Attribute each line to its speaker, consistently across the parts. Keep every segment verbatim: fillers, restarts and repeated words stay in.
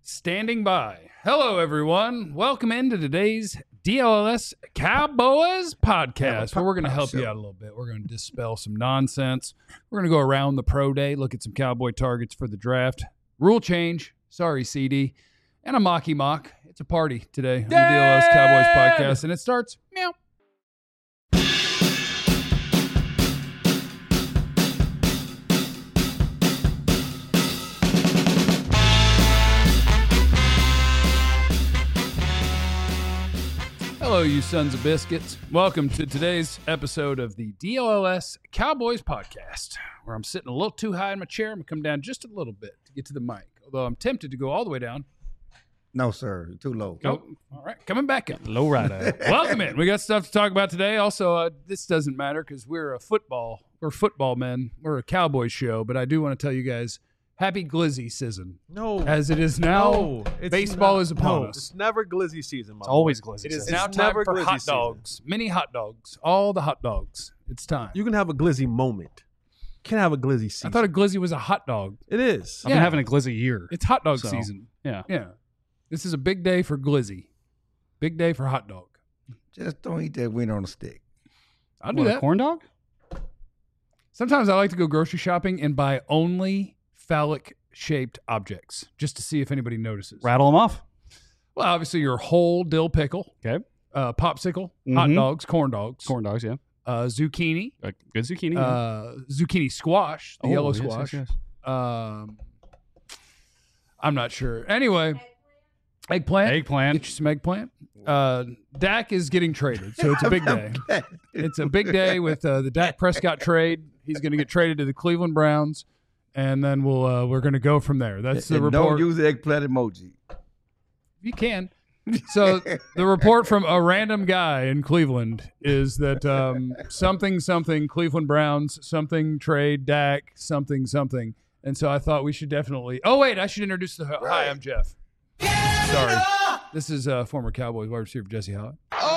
Speaker 1: Standing by. Hello, everyone. Welcome into today's D L S Cowboys podcast, where we're going to help you out a little bit. We're going to dispel some nonsense. We're going to go around the pro day, look at some Cowboy targets for the draft. Rule change. Sorry, C D. And a mocky mock. It's a party today on the D L S Cowboys podcast, and it starts meow. Hello, you sons of biscuits. Welcome to today's episode of the D L S Cowboys podcast, where I'm sitting a little too high in my chair. I'm going to come down just a little bit to get to the mic, although I'm tempted to go all the way down.
Speaker 2: No, sir. You're too low.
Speaker 1: Go. All right. Coming back up. Low rider. Welcome in. We got stuff to talk about today. Also, uh, this doesn't matter because we're a football. We're football men. We're a Cowboys show, but I do want to tell you guys, happy Glizzy season.
Speaker 3: No.
Speaker 1: As it is now, no, baseball
Speaker 3: not,
Speaker 1: is upon
Speaker 3: no,
Speaker 1: us.
Speaker 3: It's never Glizzy season, my
Speaker 4: It's
Speaker 3: boy.
Speaker 4: always Glizzy
Speaker 1: It is
Speaker 4: season.
Speaker 1: now
Speaker 3: It's
Speaker 1: time
Speaker 3: never
Speaker 1: for
Speaker 3: Glizzy
Speaker 1: hot
Speaker 3: season.
Speaker 1: dogs. Mini hot dogs. All the hot dogs. It's time.
Speaker 3: You can have a Glizzy moment. You can't have a Glizzy season.
Speaker 1: I thought a Glizzy was a hot dog.
Speaker 3: It is.
Speaker 4: I've
Speaker 1: Yeah.
Speaker 4: been having a Glizzy year.
Speaker 1: It's hot dog
Speaker 4: So,
Speaker 1: season.
Speaker 4: Yeah.
Speaker 1: Yeah. This is a big day for Glizzy. Big day for hot dog.
Speaker 2: Just don't eat that wiener on a stick.
Speaker 1: I'll do
Speaker 4: What, a
Speaker 1: that.
Speaker 4: corn dog?
Speaker 1: Sometimes I like to go grocery shopping and buy only phallic-shaped objects just to see if anybody notices.
Speaker 4: Rattle them off.
Speaker 1: Well, obviously, your whole dill pickle,
Speaker 4: Okay.
Speaker 1: uh, popsicle, hot
Speaker 4: Mhm.
Speaker 1: dogs, corn dogs,
Speaker 4: Corn dogs, yeah.
Speaker 1: uh, zucchini,
Speaker 4: A good zucchini. yeah.
Speaker 1: uh, zucchini squash, the
Speaker 4: Oh,
Speaker 1: yellow
Speaker 4: yes,
Speaker 1: squash.
Speaker 4: yes, yes.
Speaker 1: Um, I'm not sure. Anyway, eggplant.
Speaker 4: Eggplant.
Speaker 1: Get you some eggplant. Uh, Dak is getting traded, so it's a big day. It's a big day with uh, the Dak Prescott trade. He's going to get traded to the Cleveland Browns, and then we'll uh, we're going to go from there. That's the
Speaker 2: And
Speaker 1: report.
Speaker 2: Don't use the eggplant emoji.
Speaker 1: You can. So the report from a random guy in Cleveland is that um, something something Cleveland Browns, something trade Dak, something something. And so I thought we should definitely. Oh wait, I should introduce the. Hi, I'm Jeff. Sorry, this is uh, former Cowboys wide receiver Jesse Holly.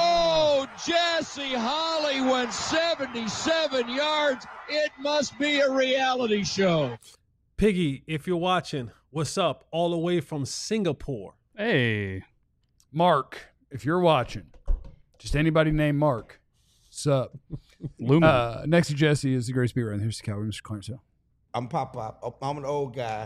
Speaker 5: Oh, Jesse Holly went seventy-seven yards. It must be a reality show.
Speaker 3: Piggy, if you're watching, what's up? All the way from Singapore.
Speaker 4: Hey.
Speaker 1: Mark, if you're watching, just anybody named Mark, sup.
Speaker 4: Luma.
Speaker 1: Uh, next to Jesse is the great speaker, and here's the Cowboy, Mister Clarence Hill.
Speaker 6: I'm Pop Pop. I'm an old guy.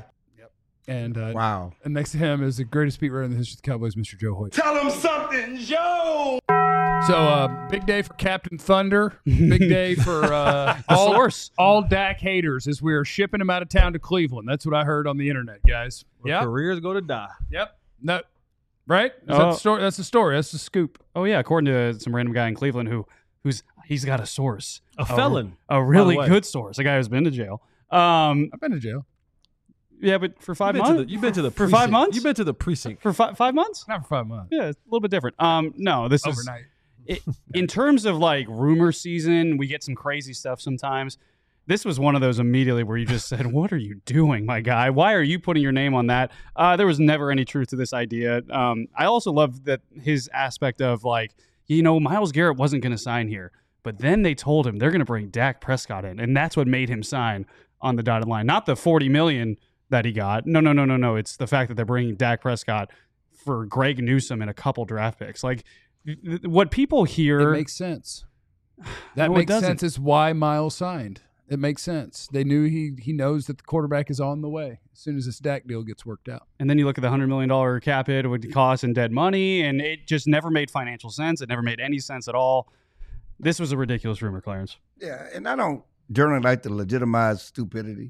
Speaker 1: And uh,
Speaker 2: Wow.
Speaker 1: and next to him is the greatest beat writer in the history of the Cowboys, Mister Joe Hoyt.
Speaker 6: Tell him something, Joe.
Speaker 1: So, uh, big day for Captain Thunder. Big day for uh,
Speaker 4: The
Speaker 1: all,
Speaker 4: source.
Speaker 1: all Dak haters as we're shipping him out of town to Cleveland. That's what I heard on the internet, guys.
Speaker 3: Where
Speaker 1: Yep.
Speaker 3: careers go to die.
Speaker 1: Yep. No, right? Is that
Speaker 4: Oh.
Speaker 1: the story? That's the story. That's the scoop.
Speaker 4: Oh, yeah. According to some random guy in Cleveland who who's he's got a source.
Speaker 3: A felon.
Speaker 4: A, a really
Speaker 3: way.
Speaker 4: good source. A guy who's been to jail. Um,
Speaker 1: I've been to jail.
Speaker 4: yeah, but for five
Speaker 3: You've been, to
Speaker 4: months?
Speaker 3: the, you've been to the
Speaker 4: for
Speaker 3: precinct.
Speaker 4: five months?
Speaker 3: You've been to the precinct.
Speaker 4: For fi- five months?
Speaker 1: Not for five months.
Speaker 4: Yeah, it's a little bit different. Um, no, this is
Speaker 1: Overnight.
Speaker 4: it, in terms of like rumor season, we get some crazy stuff sometimes. This was one of those immediately where you just said, "What are you doing, my guy? Why are you putting your name on that?" Uh, there was never any truth to this idea. Um, I also love that his aspect of like, you know, Myles Garrett wasn't going to sign here, but then they told him they're going to bring Dak Prescott in, and that's what made him sign on the dotted line, not the forty million that he got. No, no, no, no, no. It's the fact that they're bringing Dak Prescott for Greg Newsome and a couple draft picks. Like, th- what people hear
Speaker 1: It makes sense. That
Speaker 4: No, it
Speaker 1: makes
Speaker 4: doesn't.
Speaker 1: sense. It's why Miles signed. It makes sense. They knew he he knows that the quarterback is on the way as soon as this Dak deal gets worked out.
Speaker 4: And then you look at the one hundred million dollars cap hit, it would cost in dead money, and it just never made financial sense. It never made any sense at all. This was a ridiculous rumor, Clarence.
Speaker 2: Yeah, and I don't generally like to legitimize stupidity.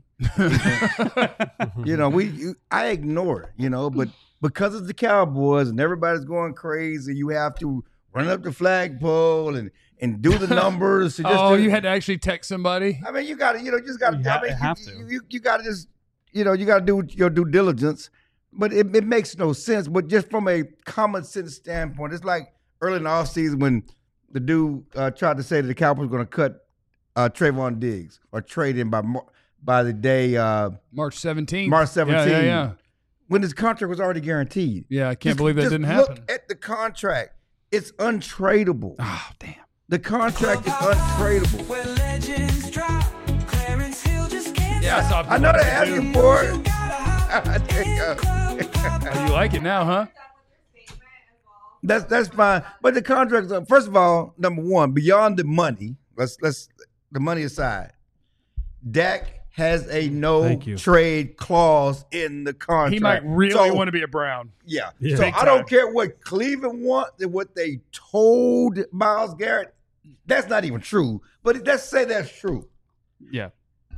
Speaker 2: You know, we you, I ignore it, you know, but because it's the Cowboys and everybody's going crazy, you have to run up the flagpole and, and do the numbers. And just
Speaker 1: Oh,
Speaker 2: do-
Speaker 1: you had to actually text somebody?
Speaker 2: I mean, you got to, you know, just got to.
Speaker 4: You ha-
Speaker 2: I mean,
Speaker 4: have
Speaker 2: you,
Speaker 4: to.
Speaker 2: You, you, you got to just, you know, you got to do your due diligence. But it, it makes no sense. But just from a common sense standpoint, it's like early in the offseason when the dude uh, tried to say that the Cowboys were going to cut uh, Trayvon Diggs or trade him by Mar- by the day uh,
Speaker 1: March seventeenth.
Speaker 2: March seventeenth.
Speaker 1: Yeah, yeah, yeah.
Speaker 2: when his contract was already guaranteed.
Speaker 1: Yeah, I can't
Speaker 2: Just-
Speaker 1: believe that
Speaker 2: just
Speaker 1: didn't
Speaker 2: look
Speaker 1: happen.
Speaker 2: at the contract. It's untradeable.
Speaker 1: Oh, damn.
Speaker 2: The contract is untradeable.
Speaker 1: Yeah, I saw
Speaker 2: I know they're
Speaker 1: people
Speaker 2: asking for it. There you go.
Speaker 1: Oh, you like it now, huh?
Speaker 2: That's that's fine. But the contracts are, first of all, number one, beyond the money, let's let's the money aside. Dak has a no
Speaker 3: Thank you.
Speaker 2: trade clause in the contract.
Speaker 1: He might really
Speaker 2: So,
Speaker 1: want to be a Brown.
Speaker 2: Yeah.
Speaker 3: Yeah.
Speaker 2: So
Speaker 1: Big
Speaker 2: I don't
Speaker 1: time.
Speaker 2: care what Cleveland wants and what they told Myles Garrett. That's not even true. But let's say that's true.
Speaker 4: Yeah.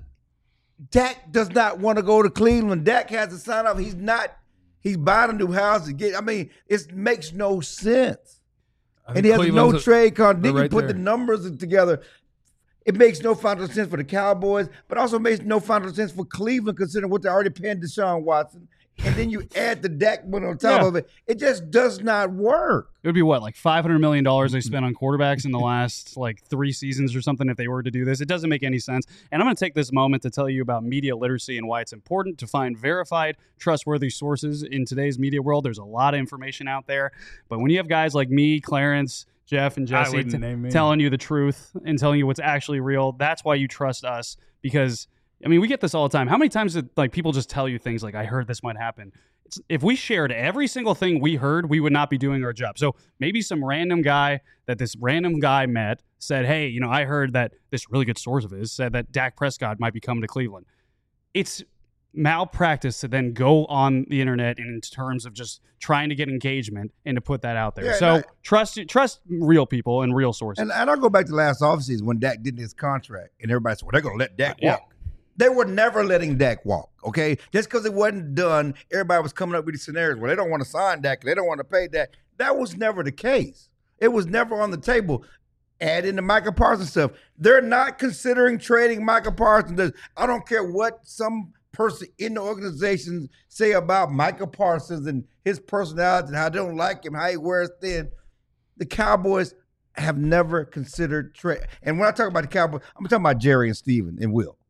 Speaker 2: Dak does not want to go to Cleveland. Dak has to sign up. He's not. He's buying a new house to get. I mean, it makes no sense.
Speaker 1: I think
Speaker 2: And he has
Speaker 1: Cleveland's
Speaker 2: no
Speaker 1: a-
Speaker 2: trade contract. Then
Speaker 1: they're
Speaker 2: you
Speaker 1: right
Speaker 2: put
Speaker 1: there.
Speaker 2: the numbers together. It makes no financial sense for the Cowboys, but also makes no financial sense for Cleveland considering what they're already paying Deshaun Watson. And then you add the Dak money on top
Speaker 4: Yeah.
Speaker 2: of it. It just does not work.
Speaker 4: It would be what, like five hundred million dollars they spent on quarterbacks in the last like three seasons or something if they were to do this. It doesn't make any sense. And I'm going to take this moment to tell you about media literacy and why it's important to find verified, trustworthy sources in today's media world. There's a lot of information out there. But when you have guys like me, Clarence, Jeff, and
Speaker 1: I
Speaker 4: Jesse
Speaker 1: wouldn't
Speaker 4: t-
Speaker 1: name me.
Speaker 4: telling you the truth and telling you what's actually real, that's why you trust us. Because, I mean, we get this all the time. How many times did like people just tell you things like, I heard this might happen? It's, if we shared every single thing we heard, we would not be doing our job. So maybe some random guy that this random guy met said, hey, you know, I heard that this really good source of his said that Dak Prescott might be coming to Cleveland. It's malpractice to then go on the internet in terms of just trying to get engagement and to put that out there.
Speaker 2: Yeah,
Speaker 4: so
Speaker 2: and I-
Speaker 4: trust trust real people and real sources.
Speaker 2: And, and I'll go back to last offseason when Dak did his contract, and everybody said, well, they're going to let Dak
Speaker 4: Yeah.
Speaker 2: walk. They were never letting Dak walk, okay? Just because it wasn't done, everybody was coming up with these scenarios where they don't want to sign Dak, they don't want to pay Dak. That was never the case. It was never on the table. Add in the Micah Parsons stuff. They're not considering trading Micah Parsons. I don't care what some person in the organization say about Micah Parsons and his personality and how they don't like him, how he wears thin. The Cowboys have never considered trade. And when I talk about the Cowboys, I'm talking about Jerry and Steven and Will.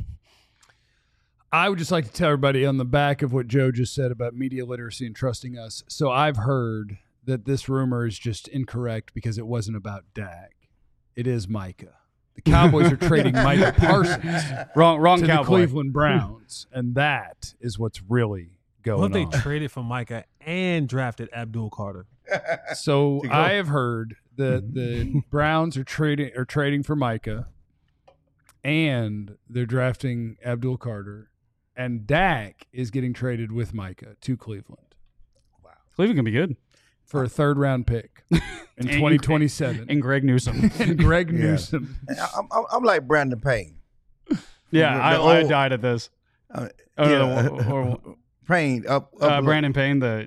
Speaker 1: I would just like to tell everybody on the back of what Joe just said about media literacy and trusting us. So I've heard that this rumor is just incorrect because it wasn't about Dak. It is Micah. The Cowboys are trading Micah Parsons
Speaker 4: wrong wrong
Speaker 1: to the
Speaker 4: cowboy.
Speaker 1: Cleveland Browns, and that is what's really going
Speaker 3: What if they
Speaker 1: on.
Speaker 3: traded for Micah and drafted Abdul Carter?
Speaker 1: So
Speaker 2: To go.
Speaker 1: I have heard that the Browns are trading are trading for Micah, and they're drafting Abdul Carter, and Dak is getting traded with Micah to Cleveland
Speaker 4: Cleveland can be good.
Speaker 1: for a third round pick in
Speaker 4: And-
Speaker 1: twenty twenty-seven.
Speaker 4: And Greg Newsom.
Speaker 1: And Greg
Speaker 2: Yeah.
Speaker 1: Newsom.
Speaker 2: I'm, I'm, I'm like Brandon Payne.
Speaker 4: Yeah,
Speaker 2: The
Speaker 4: I,
Speaker 2: old-
Speaker 4: I died at this.
Speaker 2: Uh,
Speaker 4: Oh, no,
Speaker 2: yeah.
Speaker 4: the- or-
Speaker 2: Payne up, up
Speaker 4: uh, Brandon Payne, the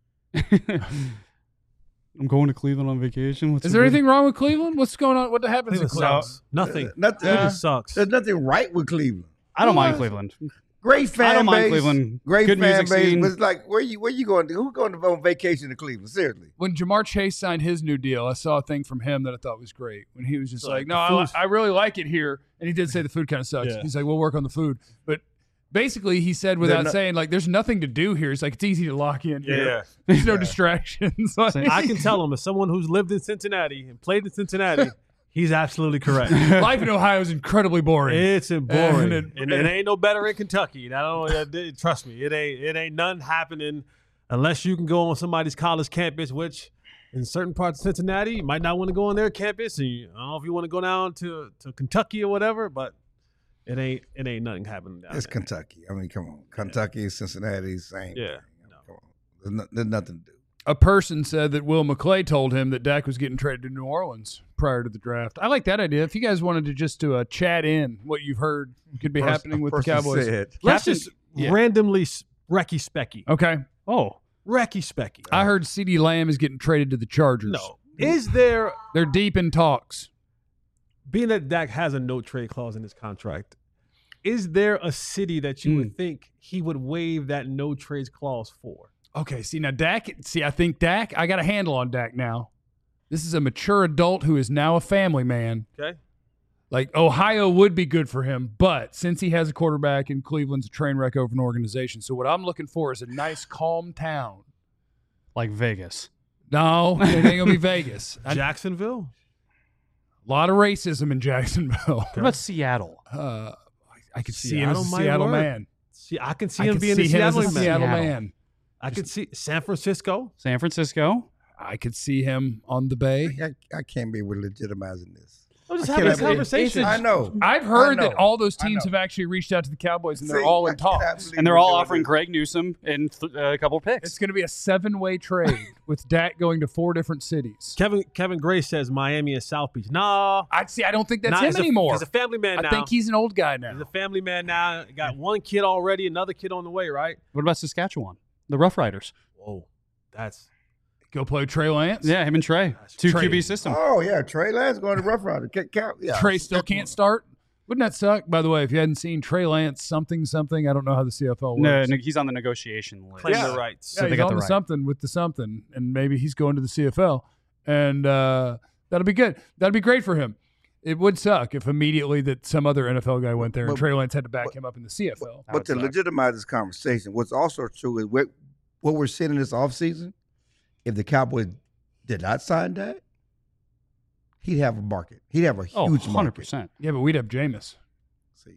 Speaker 4: I'm going to Cleveland on vacation. What's
Speaker 1: Is
Speaker 4: the
Speaker 1: there
Speaker 4: big-
Speaker 1: anything wrong with Cleveland? What's going on? What happens in
Speaker 3: Cleveland
Speaker 1: Cleveland?
Speaker 3: sucks. Nothing.
Speaker 2: Nothing.
Speaker 3: Cleveland sucks.
Speaker 2: There's nothing right with Cleveland.
Speaker 4: I don't mind
Speaker 1: What?
Speaker 4: Cleveland.
Speaker 2: Great fan
Speaker 4: I don't mind
Speaker 2: base,
Speaker 4: Cleveland.
Speaker 2: Great
Speaker 4: Good
Speaker 2: fan
Speaker 4: music
Speaker 2: base.
Speaker 4: scene.
Speaker 2: But it's like, where you where you going to? Who's going to on vacation to Cleveland? Seriously.
Speaker 1: When Jamar Chase signed his new deal, I saw a thing from him that I thought was great. When he was just
Speaker 3: So,
Speaker 1: like,
Speaker 3: the
Speaker 1: "No, I, li-
Speaker 3: food-
Speaker 1: I really like it here," and he did say the food kind of sucks.
Speaker 3: Yeah.
Speaker 1: He's like, "We'll work on the food," but basically, he said without
Speaker 2: not-
Speaker 1: saying, like, "There's nothing to do here." He's like, "It's easy to lock in here.
Speaker 3: Yeah.
Speaker 1: There's no
Speaker 2: Yeah.
Speaker 1: distractions." Like-
Speaker 3: I can tell him as someone who's lived in Cincinnati and played in Cincinnati, he's absolutely correct.
Speaker 1: life in Ohio is incredibly boring.
Speaker 3: It's boring,
Speaker 1: And
Speaker 3: and,
Speaker 1: it-
Speaker 3: it ain't no better in Kentucky. I don't. uh, th- Trust me, it ain't. It ain't nothing happening unless you can go on somebody's college campus, which in certain parts of Cincinnati, you might not want to go on their campus. And you, I don't know if you want to go down to, to Kentucky or whatever, but it ain't. It ain't nothing happening down
Speaker 2: It's
Speaker 3: there.
Speaker 2: Kentucky. I mean, come on. Kentucky, Cincinnati, same.
Speaker 3: Yeah.
Speaker 2: thing. Come on. There's, no, there's nothing to do.
Speaker 1: a person said that Will McClay told him that Dak was getting traded to New Orleans prior to the draft. I like that idea. If you guys wanted to just to uh, chat in what you've heard could be
Speaker 2: Person-
Speaker 1: happening with the
Speaker 2: person
Speaker 1: Cowboys.
Speaker 2: said-
Speaker 3: Let's
Speaker 4: Captain-
Speaker 3: just
Speaker 1: yeah.
Speaker 3: randomly s- Recky Specky.
Speaker 1: Okay.
Speaker 4: Oh,
Speaker 3: Recky Specky.
Speaker 1: I heard CeeDee Lamb is getting traded to the Chargers.
Speaker 3: No. Is there,
Speaker 1: They're deep in talks.
Speaker 3: being that Dak has a no trade clause in his contract, is there a city that you
Speaker 1: Hmm.
Speaker 3: would think he would waive that no trades clause for?
Speaker 1: Okay, see now Dak. See, I think Dak. I got a handle on Dak now. This is a mature adult who is now a family man.
Speaker 3: Okay.
Speaker 1: Like Ohio would be good for him, but since he has a quarterback and Cleveland's a train wreck over an organization, so what I'm looking for is a nice, calm town.
Speaker 4: like Vegas.
Speaker 1: No, it ain't gonna be Vegas. A
Speaker 3: Jacksonville?
Speaker 1: lot of racism in Jacksonville.
Speaker 4: What about Seattle?
Speaker 1: Uh, I could see him as a
Speaker 3: Seattle might
Speaker 1: Seattle
Speaker 3: work.
Speaker 1: man.
Speaker 3: See, I can see
Speaker 1: I
Speaker 3: him
Speaker 1: could
Speaker 3: being
Speaker 1: see
Speaker 3: a
Speaker 1: him as
Speaker 3: Seattle
Speaker 1: a
Speaker 3: man.
Speaker 1: Seattle
Speaker 4: Seattle.
Speaker 1: man.
Speaker 3: I could see San Francisco.
Speaker 4: San Francisco.
Speaker 1: I could see him on the Bay.
Speaker 2: I, I can't be with legitimizing this.
Speaker 3: I'm just
Speaker 2: I
Speaker 3: having a
Speaker 2: can't-
Speaker 3: conversation.
Speaker 2: I know.
Speaker 1: I've heard
Speaker 2: I
Speaker 1: that
Speaker 2: know.
Speaker 1: all those
Speaker 2: I
Speaker 1: teams
Speaker 2: know.
Speaker 1: have actually reached out to the Cowboys, and they're
Speaker 2: See,
Speaker 1: all
Speaker 2: I
Speaker 1: in
Speaker 2: cannot
Speaker 1: talks.
Speaker 2: believe
Speaker 4: And they're
Speaker 2: we're
Speaker 4: all
Speaker 2: doing
Speaker 4: offering
Speaker 2: this.
Speaker 4: Greg Newsom and th- uh, a couple of picks.
Speaker 1: It's going to be a seven-way trade with Dak going to four different cities.
Speaker 3: Kevin Kevin Gray says Miami and South Beach. Nah,
Speaker 1: I see. I don't think that's
Speaker 3: nah,
Speaker 1: him
Speaker 3: he's a-
Speaker 1: anymore.
Speaker 3: He's a family man
Speaker 1: I
Speaker 3: now.
Speaker 1: think he's an old guy now.
Speaker 3: He's a family man now. Got one kid already, another kid on the way, right?
Speaker 4: What about Saskatchewan? The Rough Riders.
Speaker 3: Whoa, that's
Speaker 1: Go play with Trey Lance.
Speaker 4: Yeah, him and Trey. Two
Speaker 1: Trey.
Speaker 4: Q B system.
Speaker 2: Oh yeah, Trey Lance going to Rough Rider. Ca- ca- Yeah.
Speaker 1: Trey still can't start. Wouldn't that suck? By the way, if you hadn't seen Trey Lance something something, I don't know how the C F L works.
Speaker 4: No, no, he's on the negotiation list.
Speaker 3: claim
Speaker 1: Yeah.
Speaker 3: their rights.
Speaker 1: Yeah,
Speaker 4: they
Speaker 1: he's
Speaker 4: got
Speaker 1: on
Speaker 4: the
Speaker 1: the
Speaker 4: right.
Speaker 1: something with the something, and maybe he's going to the C F L, and uh, that'll be good. That'll be great for him. It would suck if immediately that some other N F L guy went there and
Speaker 2: But-
Speaker 1: Trey Lance had to back him up in the C F L.
Speaker 4: That
Speaker 2: But
Speaker 4: would
Speaker 2: to
Speaker 4: suck.
Speaker 2: legitimize this conversation, what's also true is what, what we're seeing in this offseason, if the Cowboys did not sign that, he'd have a market. He'd have a huge
Speaker 4: Oh, one hundred
Speaker 2: market.
Speaker 4: percent.
Speaker 1: Yeah, but we'd have Jameis.
Speaker 2: See.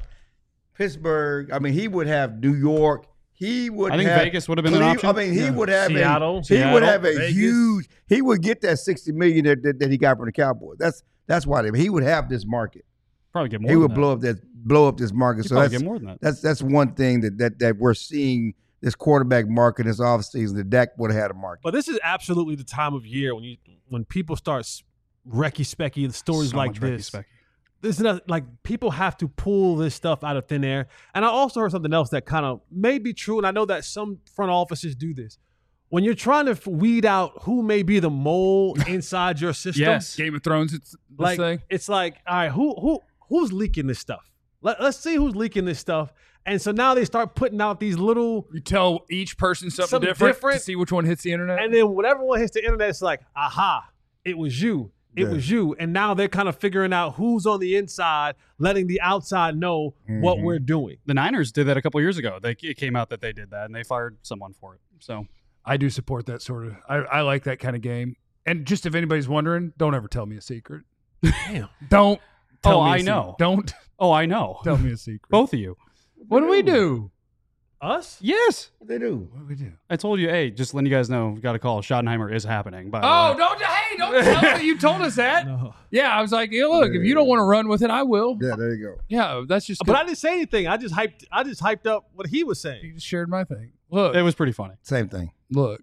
Speaker 2: Pittsburgh, I mean, he would have New York. He would
Speaker 4: I think
Speaker 2: have
Speaker 4: Vegas would have been an
Speaker 2: Cleve-
Speaker 4: option.
Speaker 2: I mean, he
Speaker 1: Yeah.
Speaker 2: would have
Speaker 3: Seattle.
Speaker 2: a, he
Speaker 3: Seattle,
Speaker 2: would have a
Speaker 3: Vegas.
Speaker 2: huge, he would get that sixty million that, that, that he got from the Cowboys. That's that's why they, he would have this market.
Speaker 4: Probably get more
Speaker 2: He
Speaker 4: than
Speaker 2: would
Speaker 4: that.
Speaker 2: blow up that blow up this market.
Speaker 4: He'd
Speaker 2: So
Speaker 4: probably
Speaker 2: that's
Speaker 4: get more than that.
Speaker 2: that's that's one thing that that that we're seeing this quarterback market this offseason. That Dak would have had a market.
Speaker 3: But this is absolutely the time of year when you when people start s- Recky Specky stories
Speaker 4: So
Speaker 3: like
Speaker 4: much Ricky
Speaker 3: this.
Speaker 4: Specky.
Speaker 3: This is not, like people have to pull this stuff out of thin air. And I also heard something else that kind of may be true, and I know that some front offices do this. When you're trying to f- weed out who may be the mole inside your system,
Speaker 4: Yes.
Speaker 1: Game of Thrones, it's this
Speaker 3: like
Speaker 1: thing.
Speaker 3: it's like, all right, who who who's leaking this stuff? Let, let's see who's leaking this stuff. And so now they start putting out these little,
Speaker 1: You tell each person something,
Speaker 3: Something
Speaker 1: different,
Speaker 3: different.
Speaker 1: to see which one hits the internet.
Speaker 3: and then whatever one hits the internet, it's like, aha, it was you. It
Speaker 2: Yeah.
Speaker 3: was you. And now they're kind of figuring out who's on the inside, letting the outside know what
Speaker 2: Mhm.
Speaker 3: we're doing.
Speaker 4: The Niners did that a couple years ago. They, it came out that they did that, and they fired someone for it. So
Speaker 1: I do support that sort of. I, I like that kind of game. And just if anybody's wondering, don't ever tell me a secret.
Speaker 3: Damn.
Speaker 1: Don't. Tell
Speaker 4: Oh,
Speaker 1: me a
Speaker 4: I
Speaker 1: secret.
Speaker 4: know.
Speaker 1: Don't
Speaker 4: Oh, I know.
Speaker 1: tell me a secret.
Speaker 4: Both of you.
Speaker 1: What do we do?
Speaker 3: Us?
Speaker 4: Yes.
Speaker 2: What they do?
Speaker 1: What do we do?
Speaker 4: I told you, hey, just letting you guys know, got a call. Schottenheimer is happening. By the
Speaker 1: Oh,
Speaker 4: way.
Speaker 1: don't. Hey, don't tell me. You told us that.
Speaker 3: No.
Speaker 1: Yeah, I was like, yeah, look, if you don't want to run with it, I will.
Speaker 2: Yeah, there you go.
Speaker 1: Yeah, that's just.
Speaker 3: But I didn't say anything. I just hyped I just hyped up what he was
Speaker 1: you
Speaker 3: saying.
Speaker 1: just shared my thing. Look,
Speaker 4: It was pretty funny.
Speaker 2: Same thing.
Speaker 1: look.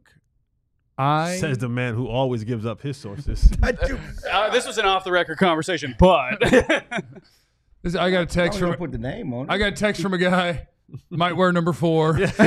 Speaker 1: I
Speaker 3: Says the man who always gives up his sources.
Speaker 2: I do.
Speaker 4: Uh, this was an off the record conversation, but
Speaker 1: this, I got a
Speaker 2: I
Speaker 1: text
Speaker 2: don't
Speaker 1: from.
Speaker 2: put the name on it.
Speaker 1: I got a text from a guy. Might wear number four.
Speaker 4: you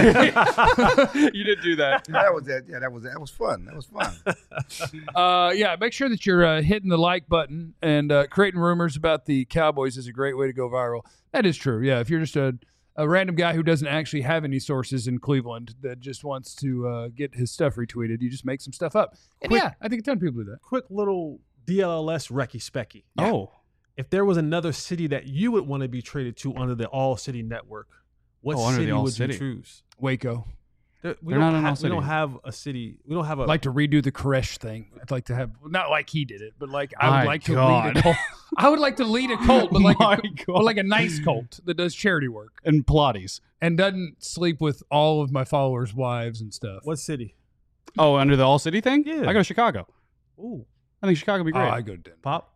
Speaker 4: did do that.
Speaker 2: that was that. Yeah, that was that was fun. That was fun.
Speaker 1: Uh, yeah, make sure that you're uh, hitting the like button and uh, creating rumors about the Cowboys is a great way to go viral. That is true. Yeah, if you're just a, a random guy who doesn't actually have any sources in Cleveland that just wants to uh, get his stuff retweeted, you just make some stuff up. And
Speaker 3: Quick-
Speaker 1: yeah, I think a ton of people do that.
Speaker 3: Quick little D L L S Recky Specky.
Speaker 4: Oh,
Speaker 3: If there was another city that you would want to be traded to under the All City Network, what
Speaker 4: Oh, under the
Speaker 3: city
Speaker 4: All
Speaker 3: would
Speaker 4: City.
Speaker 3: you choose?
Speaker 1: Waco.
Speaker 3: There- we
Speaker 4: They're
Speaker 3: don't
Speaker 4: not an
Speaker 3: have,
Speaker 4: All
Speaker 3: We
Speaker 4: City.
Speaker 3: don't have a city. We don't have a
Speaker 1: I'd like to redo the Koresh thing. I'd like to have not like he did it, but like I
Speaker 4: My
Speaker 1: would like to
Speaker 4: God.
Speaker 1: lead a cult. I would like to lead a cult, but like
Speaker 4: My
Speaker 1: a,
Speaker 4: God.
Speaker 1: but like a nice cult that does charity work
Speaker 4: and Pilates.
Speaker 1: and doesn't sleep with all of my followers' wives and stuff.
Speaker 3: what city?
Speaker 4: Oh, under the All City thing?
Speaker 3: Yeah.
Speaker 4: I go to Chicago.
Speaker 3: Ooh,
Speaker 4: I think Chicago would be
Speaker 1: Oh,
Speaker 4: great.
Speaker 1: I go to Denver.
Speaker 3: Pop.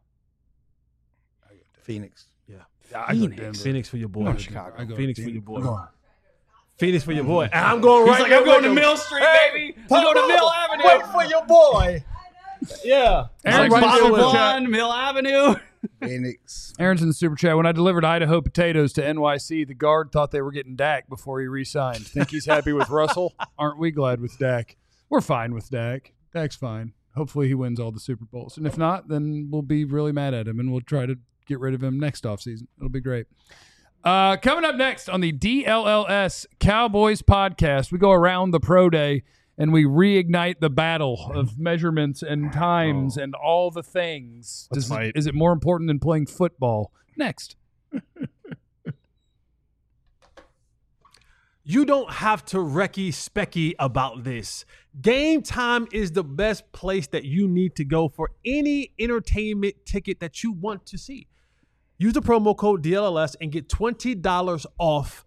Speaker 2: Phoenix.
Speaker 1: Yeah, I go to
Speaker 4: Phoenix.
Speaker 1: Denver.
Speaker 3: Phoenix for your
Speaker 1: I
Speaker 3: boy.
Speaker 1: go to Chicago. I go to
Speaker 3: Phoenix for
Speaker 1: Denver.
Speaker 3: your boy.
Speaker 1: I'm going.
Speaker 3: Phoenix for your boy. And I'm going right.
Speaker 4: He's like,
Speaker 3: there
Speaker 4: I'm going
Speaker 3: with
Speaker 4: to
Speaker 3: him.
Speaker 4: Mill Street,
Speaker 3: Hey,
Speaker 4: baby. I'm going to Mill Avenue.
Speaker 3: Wait for your boy. Yeah.
Speaker 1: Aaron,
Speaker 4: Like
Speaker 1: right
Speaker 4: Bottle
Speaker 1: there with
Speaker 4: Blonde, Mill Avenue.
Speaker 2: Phoenix.
Speaker 1: Aaron's in the super chat. When I delivered Idaho potatoes to N Y C, the guard thought they were getting Dak before he re-signed. Think he's happy with Russell? Aren't we glad with Dak? We're fine with Dak. Dak's fine. Hopefully he wins all the Super Bowls. And if not, then we'll be really mad at him and we'll try to get rid of him next offseason. It'll be great. Uh, coming up next on the D L L S Cowboys podcast, we go around the pro day and we reignite the battle of measurements and times and all the things.
Speaker 4: Let's
Speaker 1: Does it-
Speaker 4: fight.
Speaker 1: is it more important than playing football? Next.
Speaker 3: You don't have to Recky Specky about this. Game Time is the best place that you need to go for any entertainment ticket that you want to see. Use the promo code D L L S and get twenty dollars off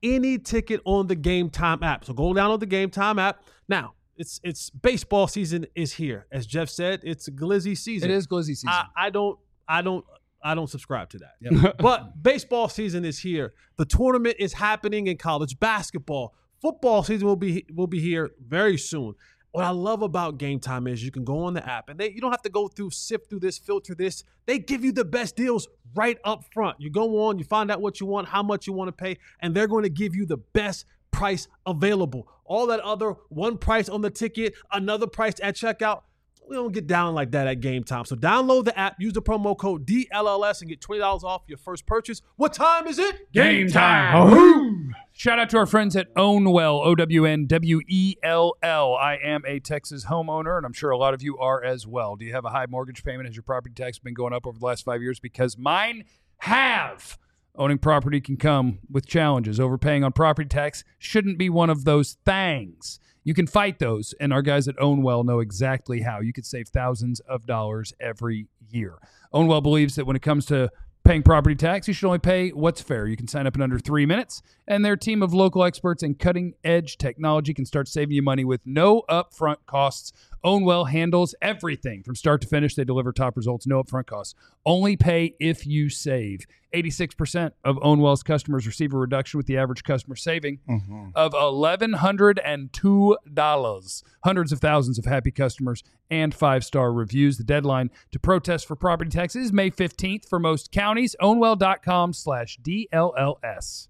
Speaker 3: any ticket on the Game Time app. So go download the Game Time app. Now, it's it's baseball season is here. As Jeff said, it's a glizzy season.
Speaker 1: It is glizzy season.
Speaker 3: I, I don't I don't I don't subscribe to that.
Speaker 1: Yep.
Speaker 3: But baseball season is here. The tournament is happening in college basketball. Football season will be will be here very soon. What I love about Game Time is you can go on the app and they you don't have to go through, sift through this, filter this. They give you the best deals right up front. You go on, you find out what you want, how much you want to pay, and they're going to give you the best price available. All that other one price on the ticket, another price at checkout, we don't get down like that at Game Time. So download the app, use the promo code D L L S and get twenty dollars off your first purchase. What time is it?
Speaker 1: Game time. Shout out to our friends at Ownwell, O W N W E L L. I am a Texas homeowner, and I'm sure a lot of you are as well. Do you have a high mortgage payment? Has your property tax been going up over the last five years? Because mine have. Owning property can come with challenges. Overpaying on property tax shouldn't be one of those things. You can fight those, and our guys at Ownwell know exactly how. You could save thousands of dollars every year. Ownwell believes that when it comes to paying property tax, you should only pay what's fair. You can sign up in under three minutes, and their team of local experts and cutting-edge technology can start saving you money with no upfront costs. Ownwell handles everything from start to finish. They deliver top results, no upfront costs. Only pay if you save. eighty-six percent of Ownwell's customers receive a reduction with the average customer saving mm-hmm. of one thousand one hundred two dollars. Hundreds of thousands of happy customers and five-star reviews. The deadline to protest for property taxes is May fifteenth for most counties. Ownwell.com slash DLLS.